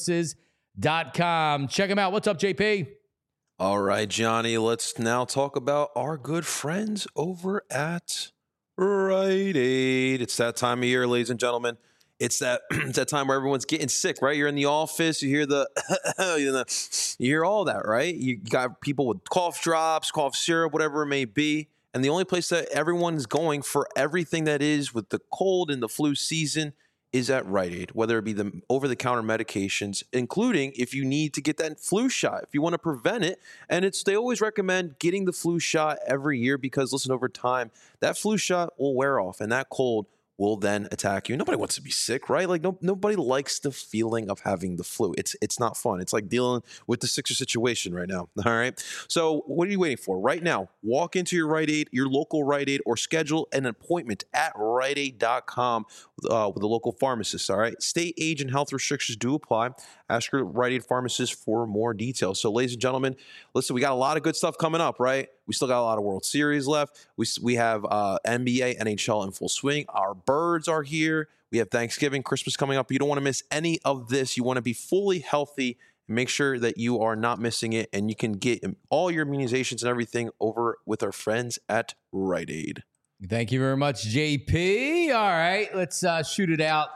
Services.com. Check them out. What's up, JP? All right, Johnny, let's now talk about our good friends over at Rite Aid. It's that time of year, ladies and gentlemen. It's that time where everyone's getting sick, right? You're in the office, you hear you hear all that, right? You got people with cough drops, cough syrup, whatever it may be. And the only place that everyone's going for everything that is with the cold and the flu season is at Rite Aid, whether it be the over-the-counter medications, including if you need to get that flu shot, if you want to prevent it. And they always recommend getting the flu shot every year because, listen, over time, that flu shot will wear off and that cold will then attack you. Nobody wants to be sick, right? Like nobody likes the feeling of having the flu. It's not fun. It's like dealing with the Sixers situation right now. All right. So what are you waiting for? Right now, walk into your Rite Aid, your local Rite Aid, or schedule an appointment at RiteAid.com with a local pharmacist. All right. State, age, and health restrictions do apply. Ask your Rite Aid pharmacist for more details. So, ladies and gentlemen, listen, we got a lot of good stuff coming up, right? We still got a lot of World Series left. We have NBA, NHL in full swing. Our birds are here. We have Thanksgiving, Christmas coming up. You don't want to miss any of this. You want to be fully healthy. Make sure that you are not missing it, and you can get all your immunizations and everything over with our friends at Rite Aid. Thank you very much, JP. All right, let's shoot it out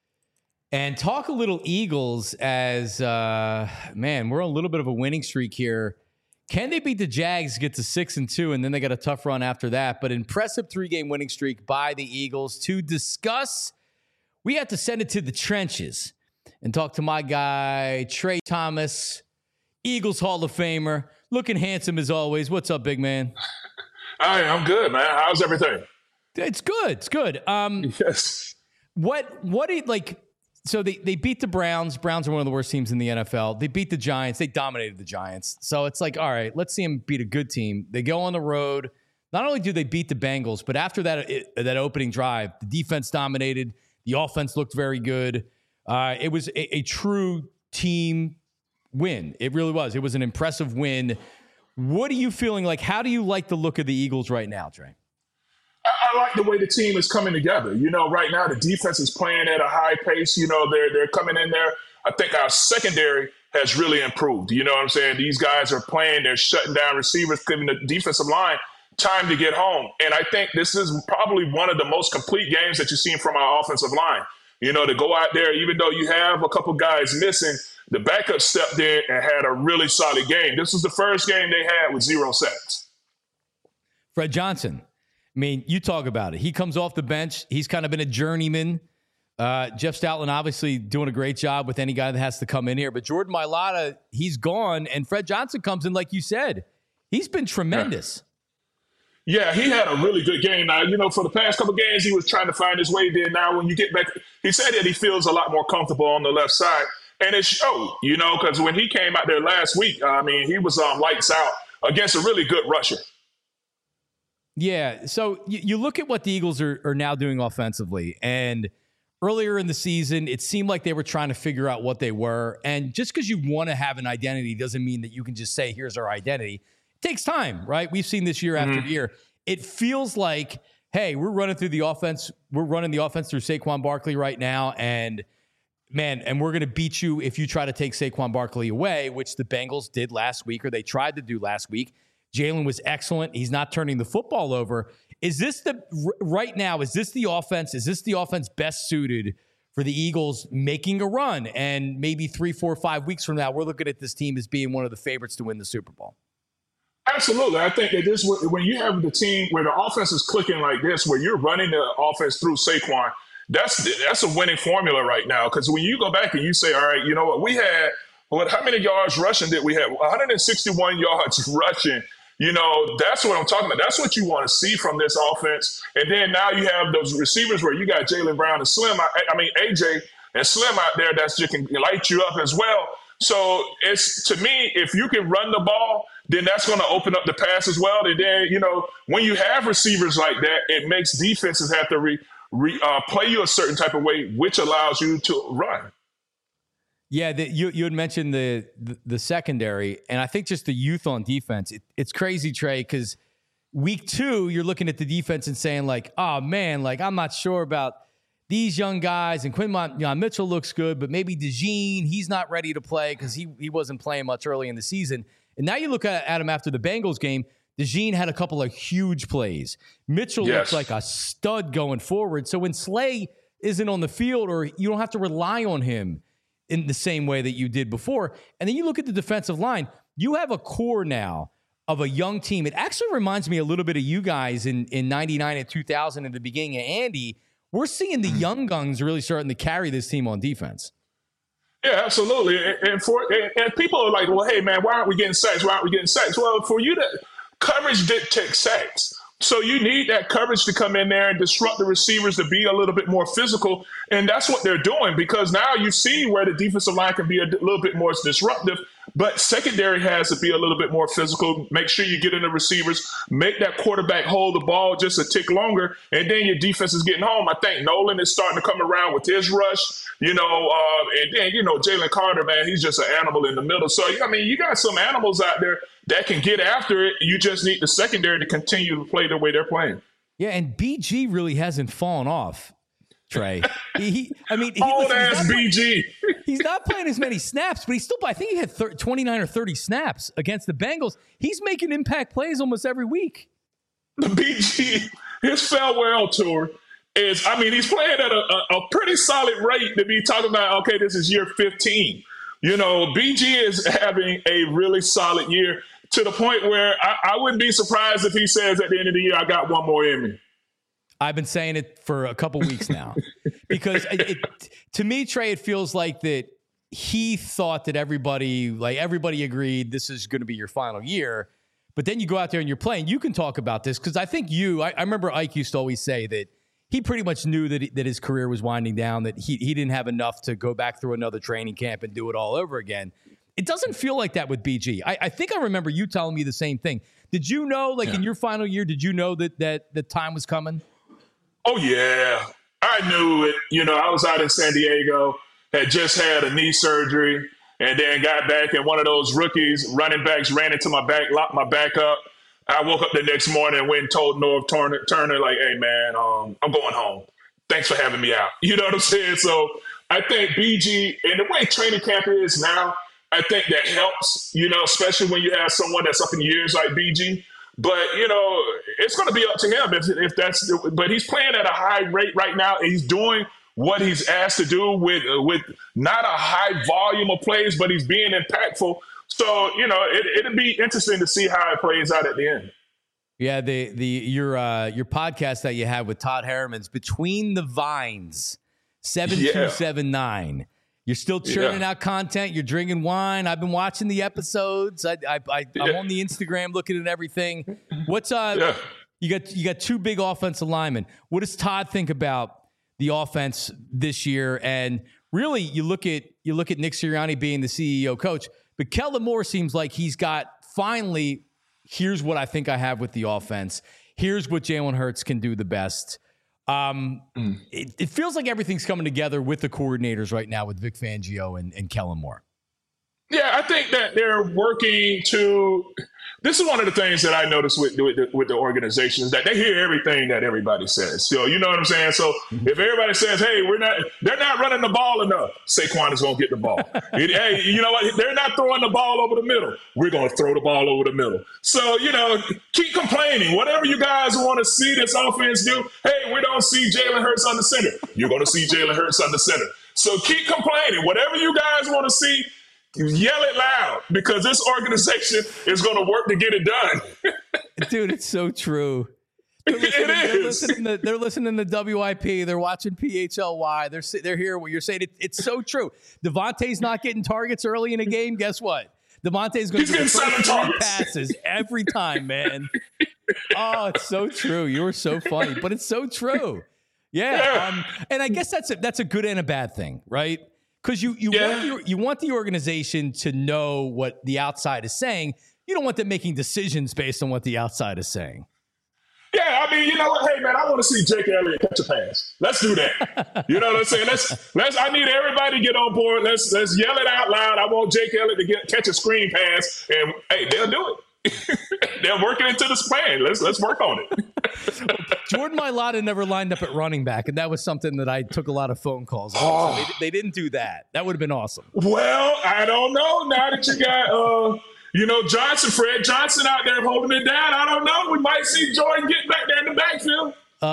and talk a little Eagles as, man, we're on a little bit of a winning streak here. Can they beat the Jags, get to 6-2, and then they got a tough run after that? But impressive 3-game winning streak by the Eagles. To discuss, we have to send it to the trenches and talk to my guy, Trey Thomas, Eagles Hall of Famer, looking handsome as always. What's up, big man? Hi, I'm good, man. How's everything? It's good. It's good. Yes. What do you like? So they beat the Browns. Browns are one of the worst teams in the NFL. They beat the Giants. They dominated the Giants. So it's like, all right, let's see them beat a good team. They go on the road. Not only do they beat the Bengals, but after that opening drive, the defense dominated. The offense looked very good. It was a true team win. It really was. It was an impressive win. What are you feeling like? How do you like the look of the Eagles right now, Trey? I like the way the team is coming together. You know, right now the defense is playing at a high pace. You know, they're coming in there. I think our secondary has really improved. You know what I'm saying? These guys are playing. They're shutting down receivers, giving the defensive line time to get home. And I think this is probably one of the most complete games that you've seen from our offensive line. You know, to go out there, even though you have a couple guys missing, the backup stepped in and had a really solid game. This was the first game they had with 0 sacks. Fred Johnson. I mean, you talk about it. He comes off the bench. He's kind of been a journeyman. Jeff Stoutland obviously doing a great job with any guy that has to come in here. But Jordan Mailata, he's gone. And Fred Johnson comes in, like you said. He's been tremendous. Yeah, he had a really good game. Now, you know, for the past couple of games, he was trying to find his way there. Now, when you get back, he said that he feels a lot more comfortable on the left side. And it showed, you know, because when he came out there last week, I mean, he was lights out against a really good rusher. Yeah, so you look at what the Eagles are now doing offensively, and earlier in the season, it seemed like they were trying to figure out what they were. And just because you want to have an identity doesn't mean that you can just say, here's our identity. It takes time, right? We've seen this year after year. It feels like, hey, we're running through the offense. We're running the offense through Saquon Barkley right now, and man, and we're going to beat you if you try to take Saquon Barkley away, which the Bengals did last week, or they tried to do last week. Jalen was excellent. He's not turning the football over. Is this right now, is this the offense best suited for the Eagles making a run? And maybe 3, 4, 5 weeks from now, we're looking at this team as being one of the favorites to win the Super Bowl. Absolutely. I think that this, when you have the team where the offense is clicking like this, where you're running the offense through Saquon, that's a winning formula right now. Because when you go back and you say, all right, you know what, we had, how many yards rushing did we have? 161 yards rushing. You know, that's what I'm talking about. That's what you want to see from this offense. And then now you have those receivers where you got Jaylen Brown and Slim, AJ and Slim out there that's just can light you up as well. So it's, to me, if you can run the ball, then that's going to open up the pass as well. And then, you know, when you have receivers like that, it makes defenses have to play you a certain type of way, which allows you to run. Yeah, you had mentioned the secondary, and I think just the youth on defense. It's crazy, Trey, because week 2, you're looking at the defense and saying, like, oh, man, like, I'm not sure about these young guys. And Quinton Mitchell looks good, but maybe DeJean, he's not ready to play because he wasn't playing much early in the season. And now you look at him after the Bengals game, DeJean had a couple of huge plays. Mitchell looks like a stud going forward. So when Slay isn't on the field, or you don't have to rely on him in the same way that you did before. And then you look at the defensive line, you have a core now of a young team. It actually reminds me a little bit of you guys in 99 and 2000 at the beginning of Andy. We're seeing the young guns really starting to carry this team on defense. Yeah, absolutely. And people are like, well, hey, man, why aren't we getting sacks? Why aren't we getting sacks? Well, for you, coverage dictates sacks. So you need that coverage to come in there and disrupt the receivers to be a little bit more physical. And that's what they're doing, because now you see where the defensive line can be a little bit more disruptive But secondary has to be a little bit more physical. Make sure you get in the receivers, make that quarterback hold the ball just a tick longer, and then your defense is getting home. I think Nolan is starting to come around with his rush, and then, Jalen Carter, man, he's just an animal in the middle. So, I mean, you got some animals out there that can get after it. You just need the secondary to continue to play the way they're playing. Yeah, and BG really hasn't fallen off, Trey. Old-ass BG. He's not playing as many snaps, but I think he had 29 or 30 snaps against the Bengals. He's making impact plays almost every week. The BG, his farewell tour is, he's playing at a pretty solid rate to be talking about, okay, this is year 15. BG is having a really solid year to the point where I wouldn't be surprised if he says at the end of the year, I got one more in me. I've been saying it for a couple weeks now because to me, Trey, it feels like that he thought that everybody agreed this is going to be your final year. But then you go out there and you're playing. You can talk about this because I think I remember Ike used to always say that he pretty much knew that his career was winding down, that he didn't have enough to go back through another training camp and do it all over again. It doesn't feel like that with BG. I think I remember you telling me the same thing. Did you know, in your final year, did you know that the time was coming? Oh, yeah. I knew it. I was out in San Diego, had just had a knee surgery, and then got back, and one of those rookies, running backs, ran into my back, locked my back up. I woke up the next morning and went and told Norv Turner, like, hey, man, I'm going home. Thanks for having me out. You know what I'm saying? So I think BG, and the way training camp is now, I think that helps, especially when you have someone that's up in years like BG. But, it's going to be up to him if that's – but he's playing at a high rate right now, and he's doing what he's asked to do with not a high volume of plays, but he's being impactful. So, it'll be interesting to see how it plays out at the end. Yeah, your podcast that you had with Todd Harriman's Between the Vines, 7279. You're still churning out content. You're drinking wine. I've been watching the episodes. I'm on the Instagram looking at everything. What's you got two big offensive linemen. What does Todd think about the offense this year? And really, you look at Nick Sirianni being the CEO coach, but Kellen Moore seems like he's got finally. Here's what I think I have with the offense. Here's what Jalen Hurts can do the best. It feels like everything's coming together with the coordinators right now with Vic Fangio and Kellen Moore. Yeah, I think that they're working to – this is one of the things that I noticed with the organization is that they hear everything that everybody says. So, you know what I'm saying? So, if everybody says, hey, they're not running the ball enough, Saquon is going to get the ball. Hey, you know what? They're not throwing the ball over the middle. We're going to throw the ball over the middle. So, keep complaining. Whatever you guys want to see this offense do, hey, we don't see Jalen Hurts on the center. You're going to see Jalen Hurts on the center. So, keep complaining. Whatever you guys want to see, yell it loud because this organization is going to work to get it done. Dude, it's so true. They're listening to WIP. They're watching PHLY. They're hearing what you're saying. It's so true. Devontae's not getting targets early in a game. Guess what? Devontae's going to get 7 passes every time, man. Oh, it's so true. You're so funny, but it's so true. Yeah. And I guess that's a good and a bad thing, right? Because you want the organization to know what the outside is saying. You don't want them making decisions based on what the outside is saying. Yeah, you know what? Hey, man, I want to see Jake Elliott catch a pass. Let's do that. You know what I'm saying? Let's. I need everybody to get on board. Let's yell it out loud. I want Jake Elliott to catch a screen pass, and hey, they'll do it. They're working into this plan. Let's work on it. Jordan Mailata never lined up at running back, and that was something that I took a lot of phone calls on. So they didn't do that. That would have been awesome. Well, I don't know. Now that you got Fred Johnson out there holding it down, I don't know. We might see Jordan get back there in the backfield.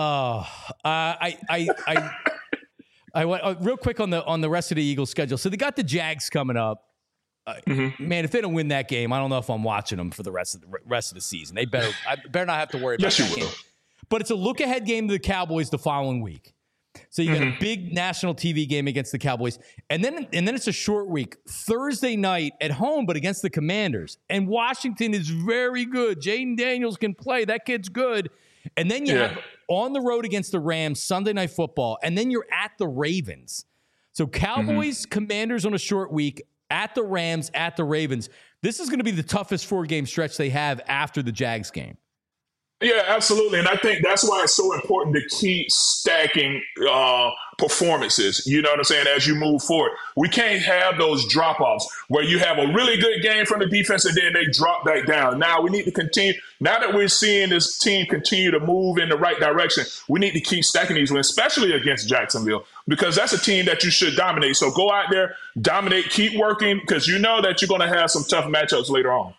I went real quick on the rest of the Eagles schedule. So they got the Jags coming up. Man, if they don't win that game, I don't know if I'm watching them for the rest of the season. I better not have to worry about that game. But it's a look-ahead game to the Cowboys the following week. So you got a big national TV game against the Cowboys. And then it's a short week. Thursday night at home, but against the Commanders. And Washington is very good. Jaden Daniels can play. That kid's good. And then you have on the road against the Rams, Sunday Night Football. And then you're at the Ravens. So Cowboys, Commanders on a short week, at the Rams, at the Ravens. This is going to be the toughest 4-game stretch they have after the Jags game. Yeah, absolutely. And I think that's why it's so important to keep stacking performances, you know what I'm saying, as you move forward. We can't have those drop-offs where you have a really good game from the defense and then they drop back down. Now we need to continue. Now that we're seeing this team continue to move in the right direction, we need to keep stacking these wins, especially against Jacksonville, because that's a team that you should dominate. So go out there, dominate, keep working, because you know that you're going to have some tough matchups later on.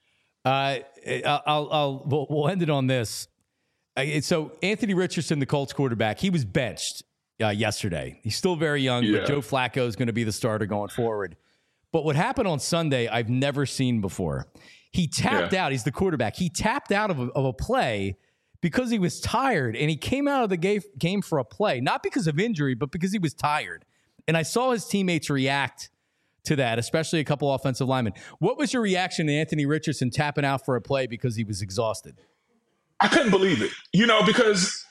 We'll end it on this. So Anthony Richardson, the Colts quarterback, he was benched yesterday. He's still very young, but Joe Flacco is going to be the starter going forward. But what happened on Sunday, I've never seen before. He tapped out. He's the quarterback. He tapped out of a play because he was tired, and he came out of the game for a play, not because of injury, but because he was tired. And I saw his teammates react to that, especially a couple offensive linemen. What was your reaction to Anthony Richardson tapping out for a play because he was exhausted? I couldn't believe it, because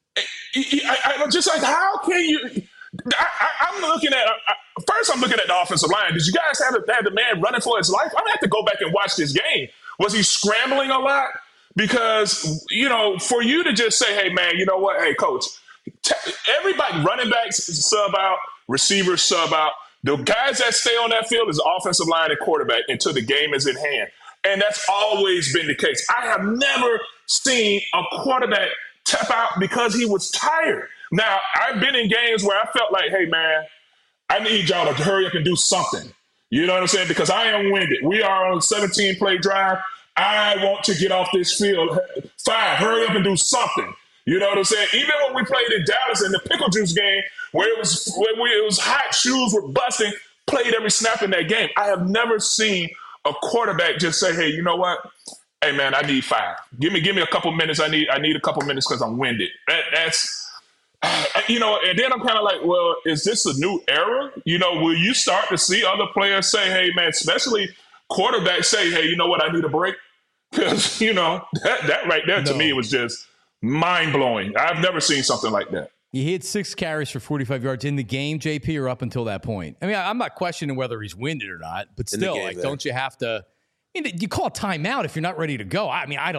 I'm just like, how can you? I'm looking at first. I'm looking at the offensive line. Did you guys have the man running for his life? I'm gonna have to go back and watch this game. Was he scrambling a lot? Because for you to just say, "Hey, man, you know what? Hey, coach, everybody, running backs sub out, receivers sub out. The guys that stay on that field is offensive line and quarterback until the game is in hand." And that's always been the case. I have never seen a quarterback tap out because he was tired. Now, I've been in games where I felt like, hey, man, I need y'all to hurry up and do something. You know what I'm saying? Because I am winded. We are on a 17-play drive. I want to get off this field. Fine, hurry up and do something. You know what I'm saying? Even when we played in Dallas in the Pickle Juice game, where it was hot, shoes were busting, played every snap in that game. I have never seen a quarterback just say, hey, you know what? Hey, man, I need 5. Give me a couple minutes. I need a couple minutes because I'm winded. That's and then I'm kind of like, well, is this a new era? Will you start to see other players say, hey, man, especially quarterbacks say, hey, you know what? I need a break. Because, that right there to me was just mind-blowing. I've never seen something like that. He had 6 carries for 45 yards in the game, JP, or up until that point? I mean, I'm not questioning whether he's winded or not, but still, don't you have to? You call a timeout if you're not ready to go. I mean,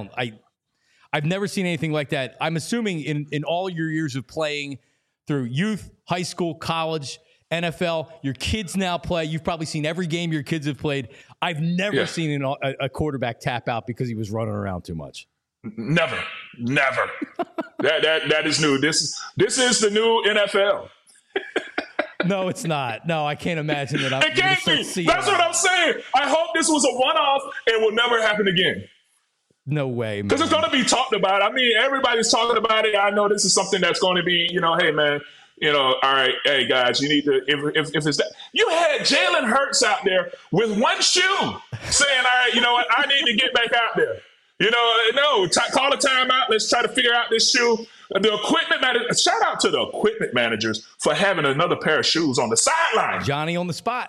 I've never seen anything like that. I'm assuming in all your years of playing through youth, high school, college, NFL, your kids now play. You've probably seen every game your kids have played. I've never seen a quarterback tap out because he was running around too much. Never. That is new. This is the new NFL. No, it's not. No, I can't imagine that. It can't be. That's what I'm saying. I hope this was a one-off and will never happen again. No way, man. Because it's going to be talked about. I mean, everybody's talking about it. I know this is something that's going to be, hey, man, all right, hey, guys, you need to, if it's that. You had Jalen Hurts out there with one shoe saying, all right, you know what, I need to get back out there. Call a timeout. Let's try to figure out this shoe. The equipment manager, shout out to the equipment managers for having another pair of shoes on the sideline. Johnny on the spot.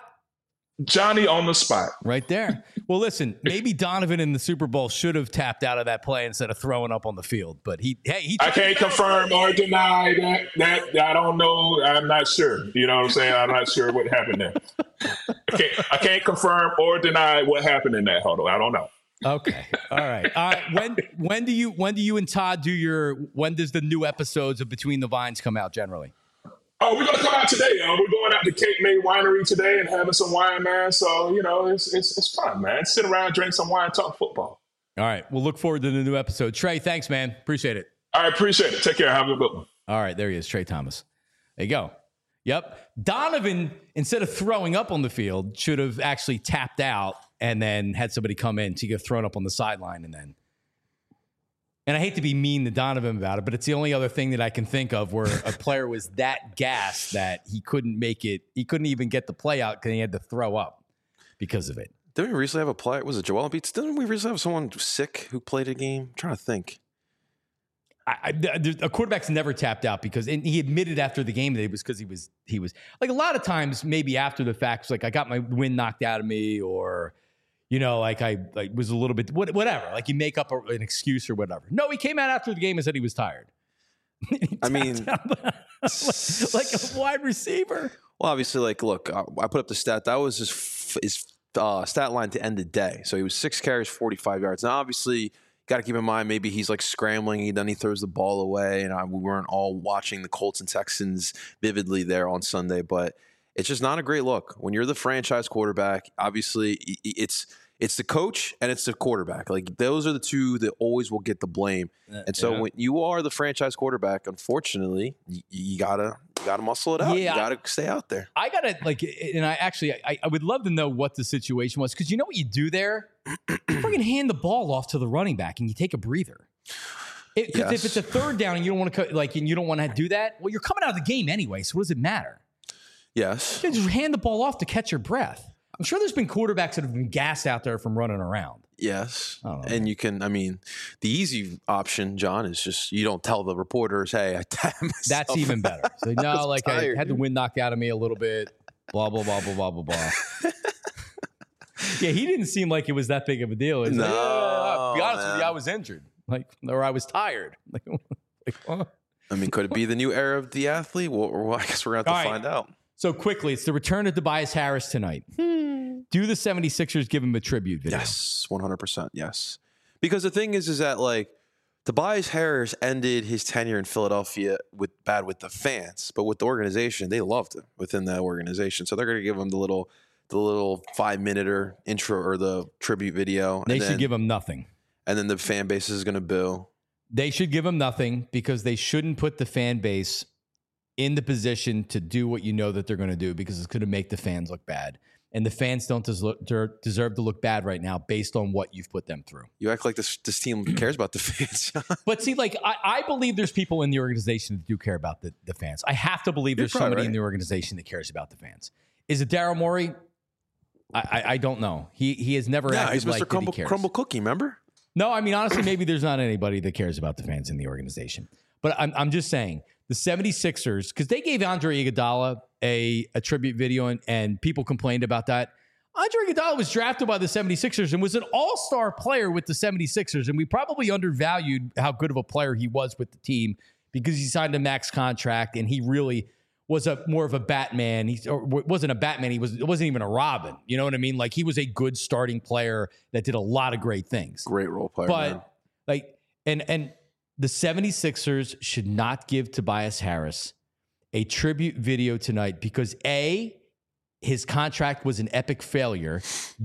Right there. Well, listen, maybe Donovan in the Super Bowl should have tapped out of that play instead of throwing up on the field. But I can't confirm or deny that. I don't know. I'm not sure. You know what I'm saying? I'm not sure what happened there. I can't confirm or deny what happened in that huddle. I don't know. Okay. All right. When do you and Todd when does the new episodes of Between the Vines come out generally? Oh, we're going to come out today. We're going out to Cape May Winery today and having some wine, man. So, it's fun, man. Sit around, drink some wine, talk football. All right. We'll look forward to the new episode. Trey, thanks, man. Appreciate it. All right. Appreciate it. Take care. Have a good one. All right. There he is, Trey Thomas. There you go. Yep. Donovan, instead of throwing up on the field, should have actually tapped out and then had somebody come in to get thrown up on the sideline and I hate to be mean to Donovan about it, but it's the only other thing that I can think of where a player was that gassed that he couldn't make it. He couldn't even get the play out because he had to throw up because of it. Didn't we recently have a player? Was it Joel Embiid? Didn't we recently have someone sick who played a game? I'm trying to think. A quarterback's never tapped out and he admitted after the game that it was because he was like a lot of times maybe after the fact, it's like I got my wind knocked out of me or I was a little bit whatever. Like you make up an excuse or whatever. No, he came out after the game and said he was tired. I mean, like a wide receiver. Well, obviously, like, look, I put up the stat. That was his stat line to end the day. So he was 6 carries, 45 yards. Now, obviously, got to keep in mind maybe he's like scrambling, and then he throws the ball away. And we weren't all watching the Colts and Texans vividly there on Sunday, but it's just not a great look. When you're the franchise quarterback, obviously it's the coach and it's the quarterback. Like, those are the two that always will get the blame. And so when you are the franchise quarterback, unfortunately, you gotta muscle it out. Yeah, you gotta stay out there. I gotta and I would love to know what the situation was, because you know what you do there? You freaking hand the ball off to the running back and you take a breather. Because if it's a third down and you don't want to and you don't want to do that, well, you're coming out of the game anyway. So what does it matter? Yes, you just hand the ball off to catch your breath. I'm sure there's been quarterbacks that have been gassed out there from running around. Yes. And you can, the easy option, John, is just you don't tell the reporters, hey, I tapped myself. That's even better. So, no, like tired, I had the wind knocked out of me a little bit, blah, blah, blah, blah, blah, blah, blah. Yeah, he didn't seem like it was that big of a deal. It's like, to be honest with you, I was injured. Or I was tired. Could it be the new era of the athlete? Well, I guess we're going to have to find out. So quickly, it's the return of Tobias Harris tonight. Do the 76ers give him a tribute video? Yes, 100%. Yes. Because the thing is that, like, Tobias Harris ended his tenure in Philadelphia with the fans, but with the organization, they loved him within that organization. So they're going to give him the little 5-minute intro or the tribute video. They should give him nothing. And then the fan base is going to boo. They should give him nothing, because they shouldn't put the fan base in the position to do what you know that they're going to do, because it's going to make the fans look bad. And the fans don't deserve to look bad right now based on what you've put them through. You act like this team cares about the fans. But see, I believe there's people in the organization that do care about the fans. I have to believe there's somebody in the organization that cares about the fans. Is it Daryl Morey? I don't know. He has never acted he's like Mr. Crumble Cookie, remember? No, honestly, maybe there's not anybody that cares about the fans in the organization. But I'm just saying, the 76ers, because they gave Andre Iguodala a tribute video, and people complained about that. Andre Iguodala was drafted by the 76ers and was an all-star player with the 76ers, and we probably undervalued how good of a player he was with the team, because he signed a max contract, and he really was more of a Batman. He wasn't a Batman. It wasn't even a Robin. You know what I mean? Like, he was a good starting player that did a lot of great things. Great role player, but man. And the 76ers should not give Tobias Harris a tribute video tonight, because A, his contract was an epic failure.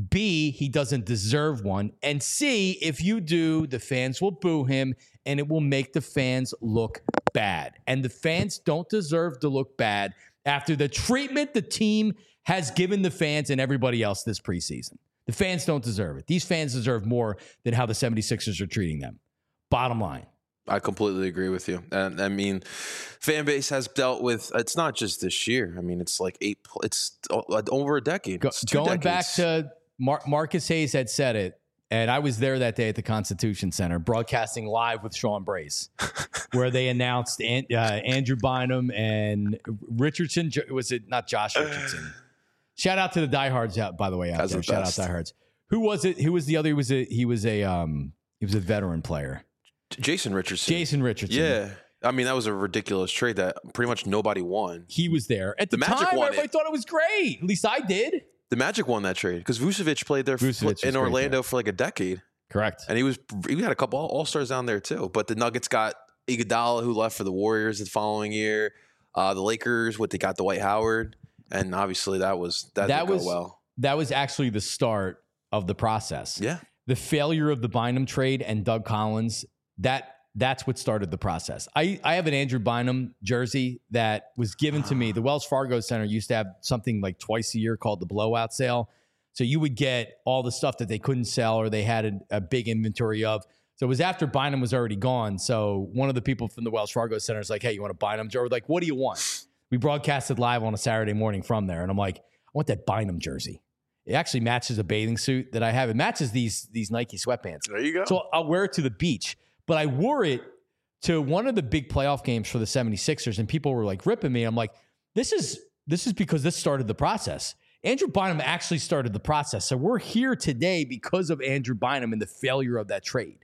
B, he doesn't deserve one. And C, if you do, the fans will boo him, and it will make the fans look bad. And the fans don't deserve to look bad after the treatment the team has given the fans and everybody else this preseason. The fans don't deserve it. These fans deserve more than how the 76ers are treating them. Bottom line. I completely agree with you. And fan base has dealt with, it's not just this year. It's like it's over a decade. Going back to Marcus Hayes had said it, and I was there that day at the Constitution Center, broadcasting live with Sean Brace, where they announced Andrew Bynum and Richardson. Was it not Josh Richardson? Shout out to the diehards out, by the way. Out there. Shout out diehards. Who was it? Who was the other? He was a veteran player. Jason Richardson. Yeah. That was a ridiculous trade that pretty much nobody won. He was there. At the Magic time, everybody thought it was great. At least I did. The Magic won that trade because Vucevic played there in Orlando for like a decade. Correct. And he had a couple All-Stars down there too. But the Nuggets got Iguodala, who left for the Warriors the following year. The Lakers, they got Dwight Howard. And obviously that didn't go well. That was actually the start of the process. Yeah. The failure of the Bynum trade and Doug Collins, that's what started the process. I have an Andrew Bynum jersey that was given to me. The Wells Fargo Center used to have something like twice a year called the blowout sale. So you would get all the stuff that they couldn't sell or they had a big inventory of. So it was after Bynum was already gone. So one of the people from the Wells Fargo Center is like, hey, you want a Bynum jersey? We're like, what do you want? We broadcasted live on a Saturday morning from there. And I'm like, I want that Bynum jersey. It actually matches a bathing suit that I have. It matches these Nike sweatpants. There you go. So I'll wear it to the beach. But I wore it to one of the big playoff games for the 76ers, and people were like ripping me. I'm like, this is because this started the process. Andrew Bynum actually started the process. So we're here today because of Andrew Bynum and the failure of that trade.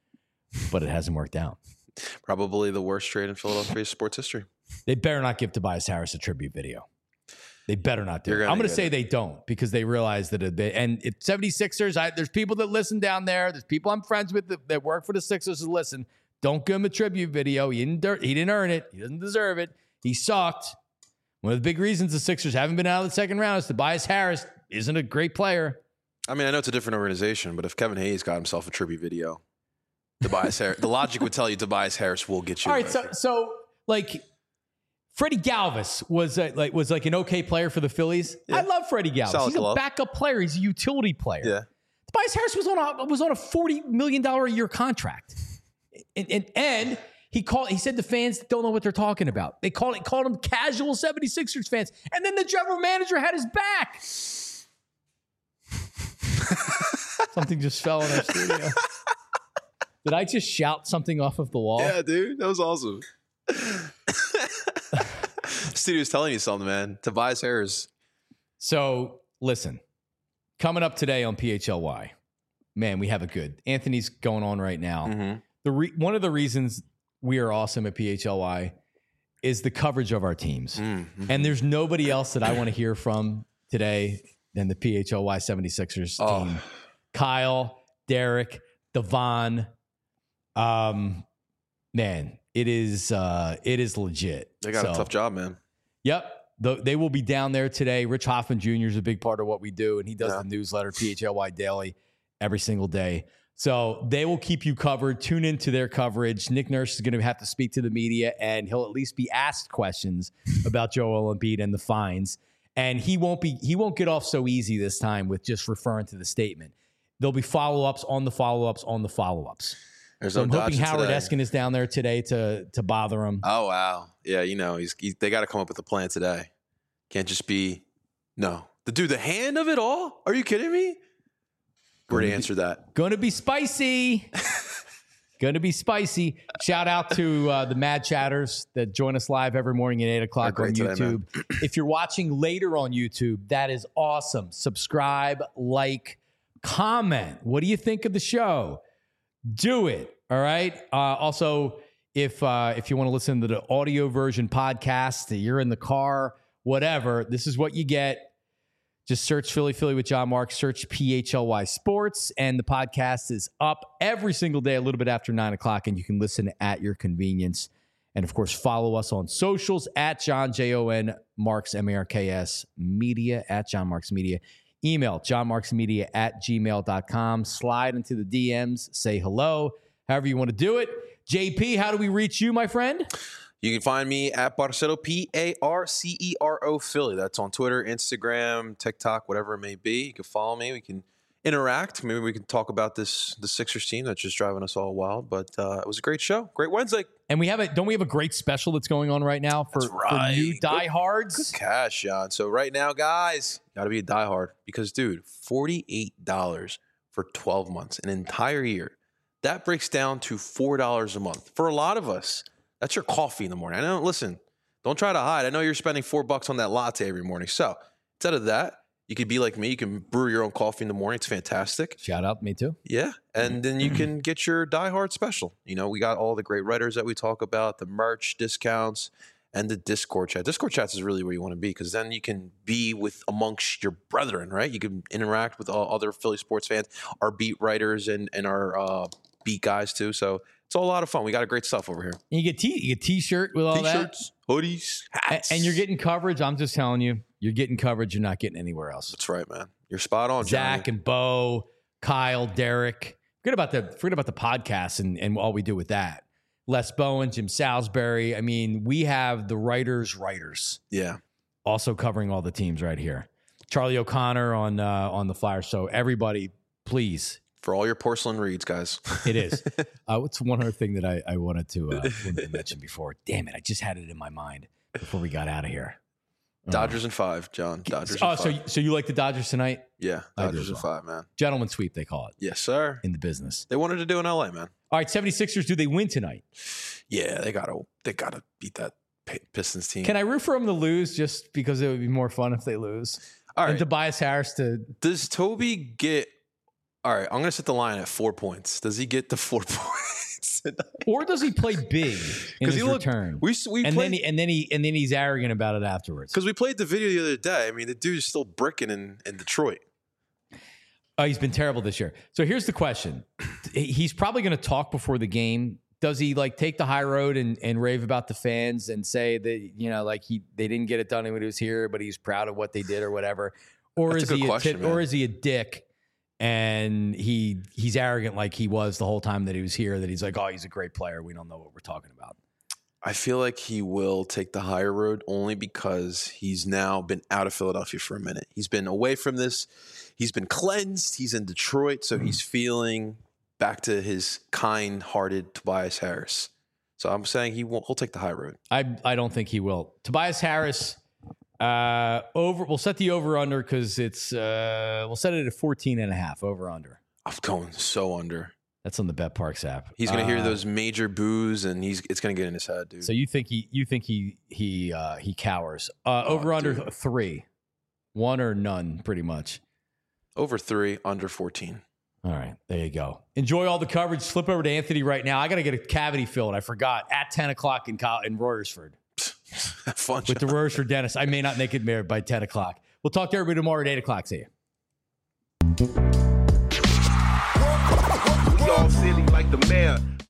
But it hasn't worked out. Probably the worst trade in Philadelphia sports history. They better not give Tobias Harris a tribute video. They better not do it. I'm going to say they don't because they realize that and it's 76ers. There's people that listen down there. There's people I'm friends with that work for the Sixers that listen. Don't give him a tribute video. He didn't earn it. He doesn't deserve it. He sucked. One of the big reasons the Sixers haven't been out of the second round is Tobias Harris isn't a great player. I mean, I know it's a different organization, but if Kevin Hayes got himself a tribute video, Tobias Harris, the logic would tell you Tobias Harris will get you. All right, so like Freddie Galvis was like an okay player for the Phillies. Yeah. I love Freddie Galvis. Solid He's a backup player. He's a utility player. Yeah. Tobias Harris was on a $40 million a year contract, and he said the fans don't know what they're talking about. They called him casual 76ers fans, and then the general manager had his back. Something just fell in our studio. Did I just shout something off of the wall? Yeah, dude. That was awesome. Studio's telling you something, man. Tobias Harris. So, listen. Coming up today on PHLY, man, we have a good. Anthony's going on right now. Mm-hmm. One of the reasons we are awesome at PHLY is the coverage of our teams. Mm-hmm. And there's nobody else that I want to hear from today than the PHLY 76ers team. Kyle, Derek, Devon. Man, it is legit. They got a tough job, man. Yep. They will be down there today. Rich Hoffman Jr. is a big part of what we do, and he does the newsletter, PHLY Daily, every single day. So they will keep you covered. Tune into their coverage. Nick Nurse is going to have to speak to the media, and he'll at least be asked questions about Joel Embiid and the fines. And he won't get off so easy this time with just referring to the statement. There'll be follow-ups on the follow-ups on the follow-ups. So I'm hoping Howard Eskin is down there today to bother him. Oh, wow. Yeah, they got to come up with a plan today. Can't just be, no. The hand of it all? Are you kidding me? Where to answer that? Going to be spicy. Going to be spicy. Shout out to the Mad Chatters that join us live every morning at 8 o'clock on YouTube. Today, if you're watching later on YouTube, that is awesome. Subscribe, like, comment. What do you think of the show? Do it. All right. Also, if you want to listen to the audio version podcast, you're in the car, whatever, this is what you get. Just search Philly with John Marks, search PHLY Sports, and the podcast is up every single day a little bit after 9 o'clock, and you can listen at your convenience. And, of course, follow us on socials at John, Jon Marks, MARKS, Media, at John Marks Media. Email johnmarksmedia@gmail.com. Slide into the DMs. Say hello. However you want to do it. JP, how do we reach you, my friend? You can find me at Barcero, Parcero Philly. That's on Twitter, Instagram, TikTok, whatever it may be. You can follow me. We can interact. Maybe we can talk about the Sixers team that's just driving us all wild. But it was a great show. Great Wednesday. And don't we have a great special that's going on right now for new diehards? Good cash, John. So right now, guys, got to be a diehard because, dude, $48 for 12 months, an entire year. That breaks down to $4 a month. For a lot of us, that's your coffee in the morning. I know, listen, don't try to hide. I know you're spending $4 on that latte every morning. So instead of that, you could be like me. You can brew your own coffee in the morning. It's fantastic. Shout out, me too. Yeah. And then you can get your diehard special. We got all the great writers that we talk about, the merch discounts, and the Discord chat. Discord chats is really where you want to be because then you can be amongst your brethren, right? You can interact with all other Philly sports fans, our beat writers and our beat guys too. So it's all a lot of fun. We got great stuff over here. And you get T-shirt with all T-shirts, hoodies, hats. And you're getting coverage. I'm just telling you, you're getting coverage you're not getting anywhere else. That's right, man. You're spot on, Zach Johnny. and Bo, Kyle, Derek. Forget about the podcast and all we do with that. Les Bowen, Jim Salisbury. I mean, we have the writers. Yeah. Also covering all the teams right here. Charlie O'Connor on the Flyers. So everybody, please. For all your porcelain reads, guys. It is. What's one other thing that I wanted to mention before? Damn it. I just had it in my mind before we got out of here. Dodgers in 5, John. Dodgers in 5. So you like the Dodgers tonight? Yeah. Dodgers in 5, man. Gentleman sweep, they call it. Yes, sir. In the business. They wanted to do in LA, man. All right, 76ers, do they win tonight? Yeah, they gotta beat that Pistons team. Can I root for them to lose just because it would be more fun if they lose? All right. And Tobias Harris Does Toby get... All right, I'm going to set the line at 4 points. Does he get the 4 points? tonight. Or does he play big in his return? Then he's arrogant about it afterwards. Because we played the video the other day. I mean, the dude is still bricking in Detroit. He's been terrible this year. So here's the question. He's probably going to talk before the game. Does he take the high road and rave about the fans and say that, they didn't get it done when he was here, but he's proud of what they did or whatever? Or is he a dick and he's arrogant like he was the whole time that he was here, that he's like, oh, he's a great player. We don't know what we're talking about. I feel like he will take the higher road only because he's now been out of Philadelphia for a minute. He's been away from this. He's been cleansed. He's in Detroit, so he's feeling back to his kind-hearted Tobias Harris. So I'm saying he'll take the high road. I don't think he will. Tobias Harris, we'll set the over-under because we'll set it at 14.5 over-under. I'm going so under. That's on the BetParks app. He's going to hear those major boos, and it's going to get in his head, dude. So you think he cowers? Over under 3, 1 or none, pretty much. Over 3, under 14. All right, there you go. Enjoy all the coverage. Slip over to Anthony right now. I got to get a cavity filled. I forgot at 10 o'clock in Royersford. Have fun with the Royersford dentist. I may not make it there by 10 o'clock. We'll talk to everybody tomorrow at 8 o'clock. See you. All silly like the mayor.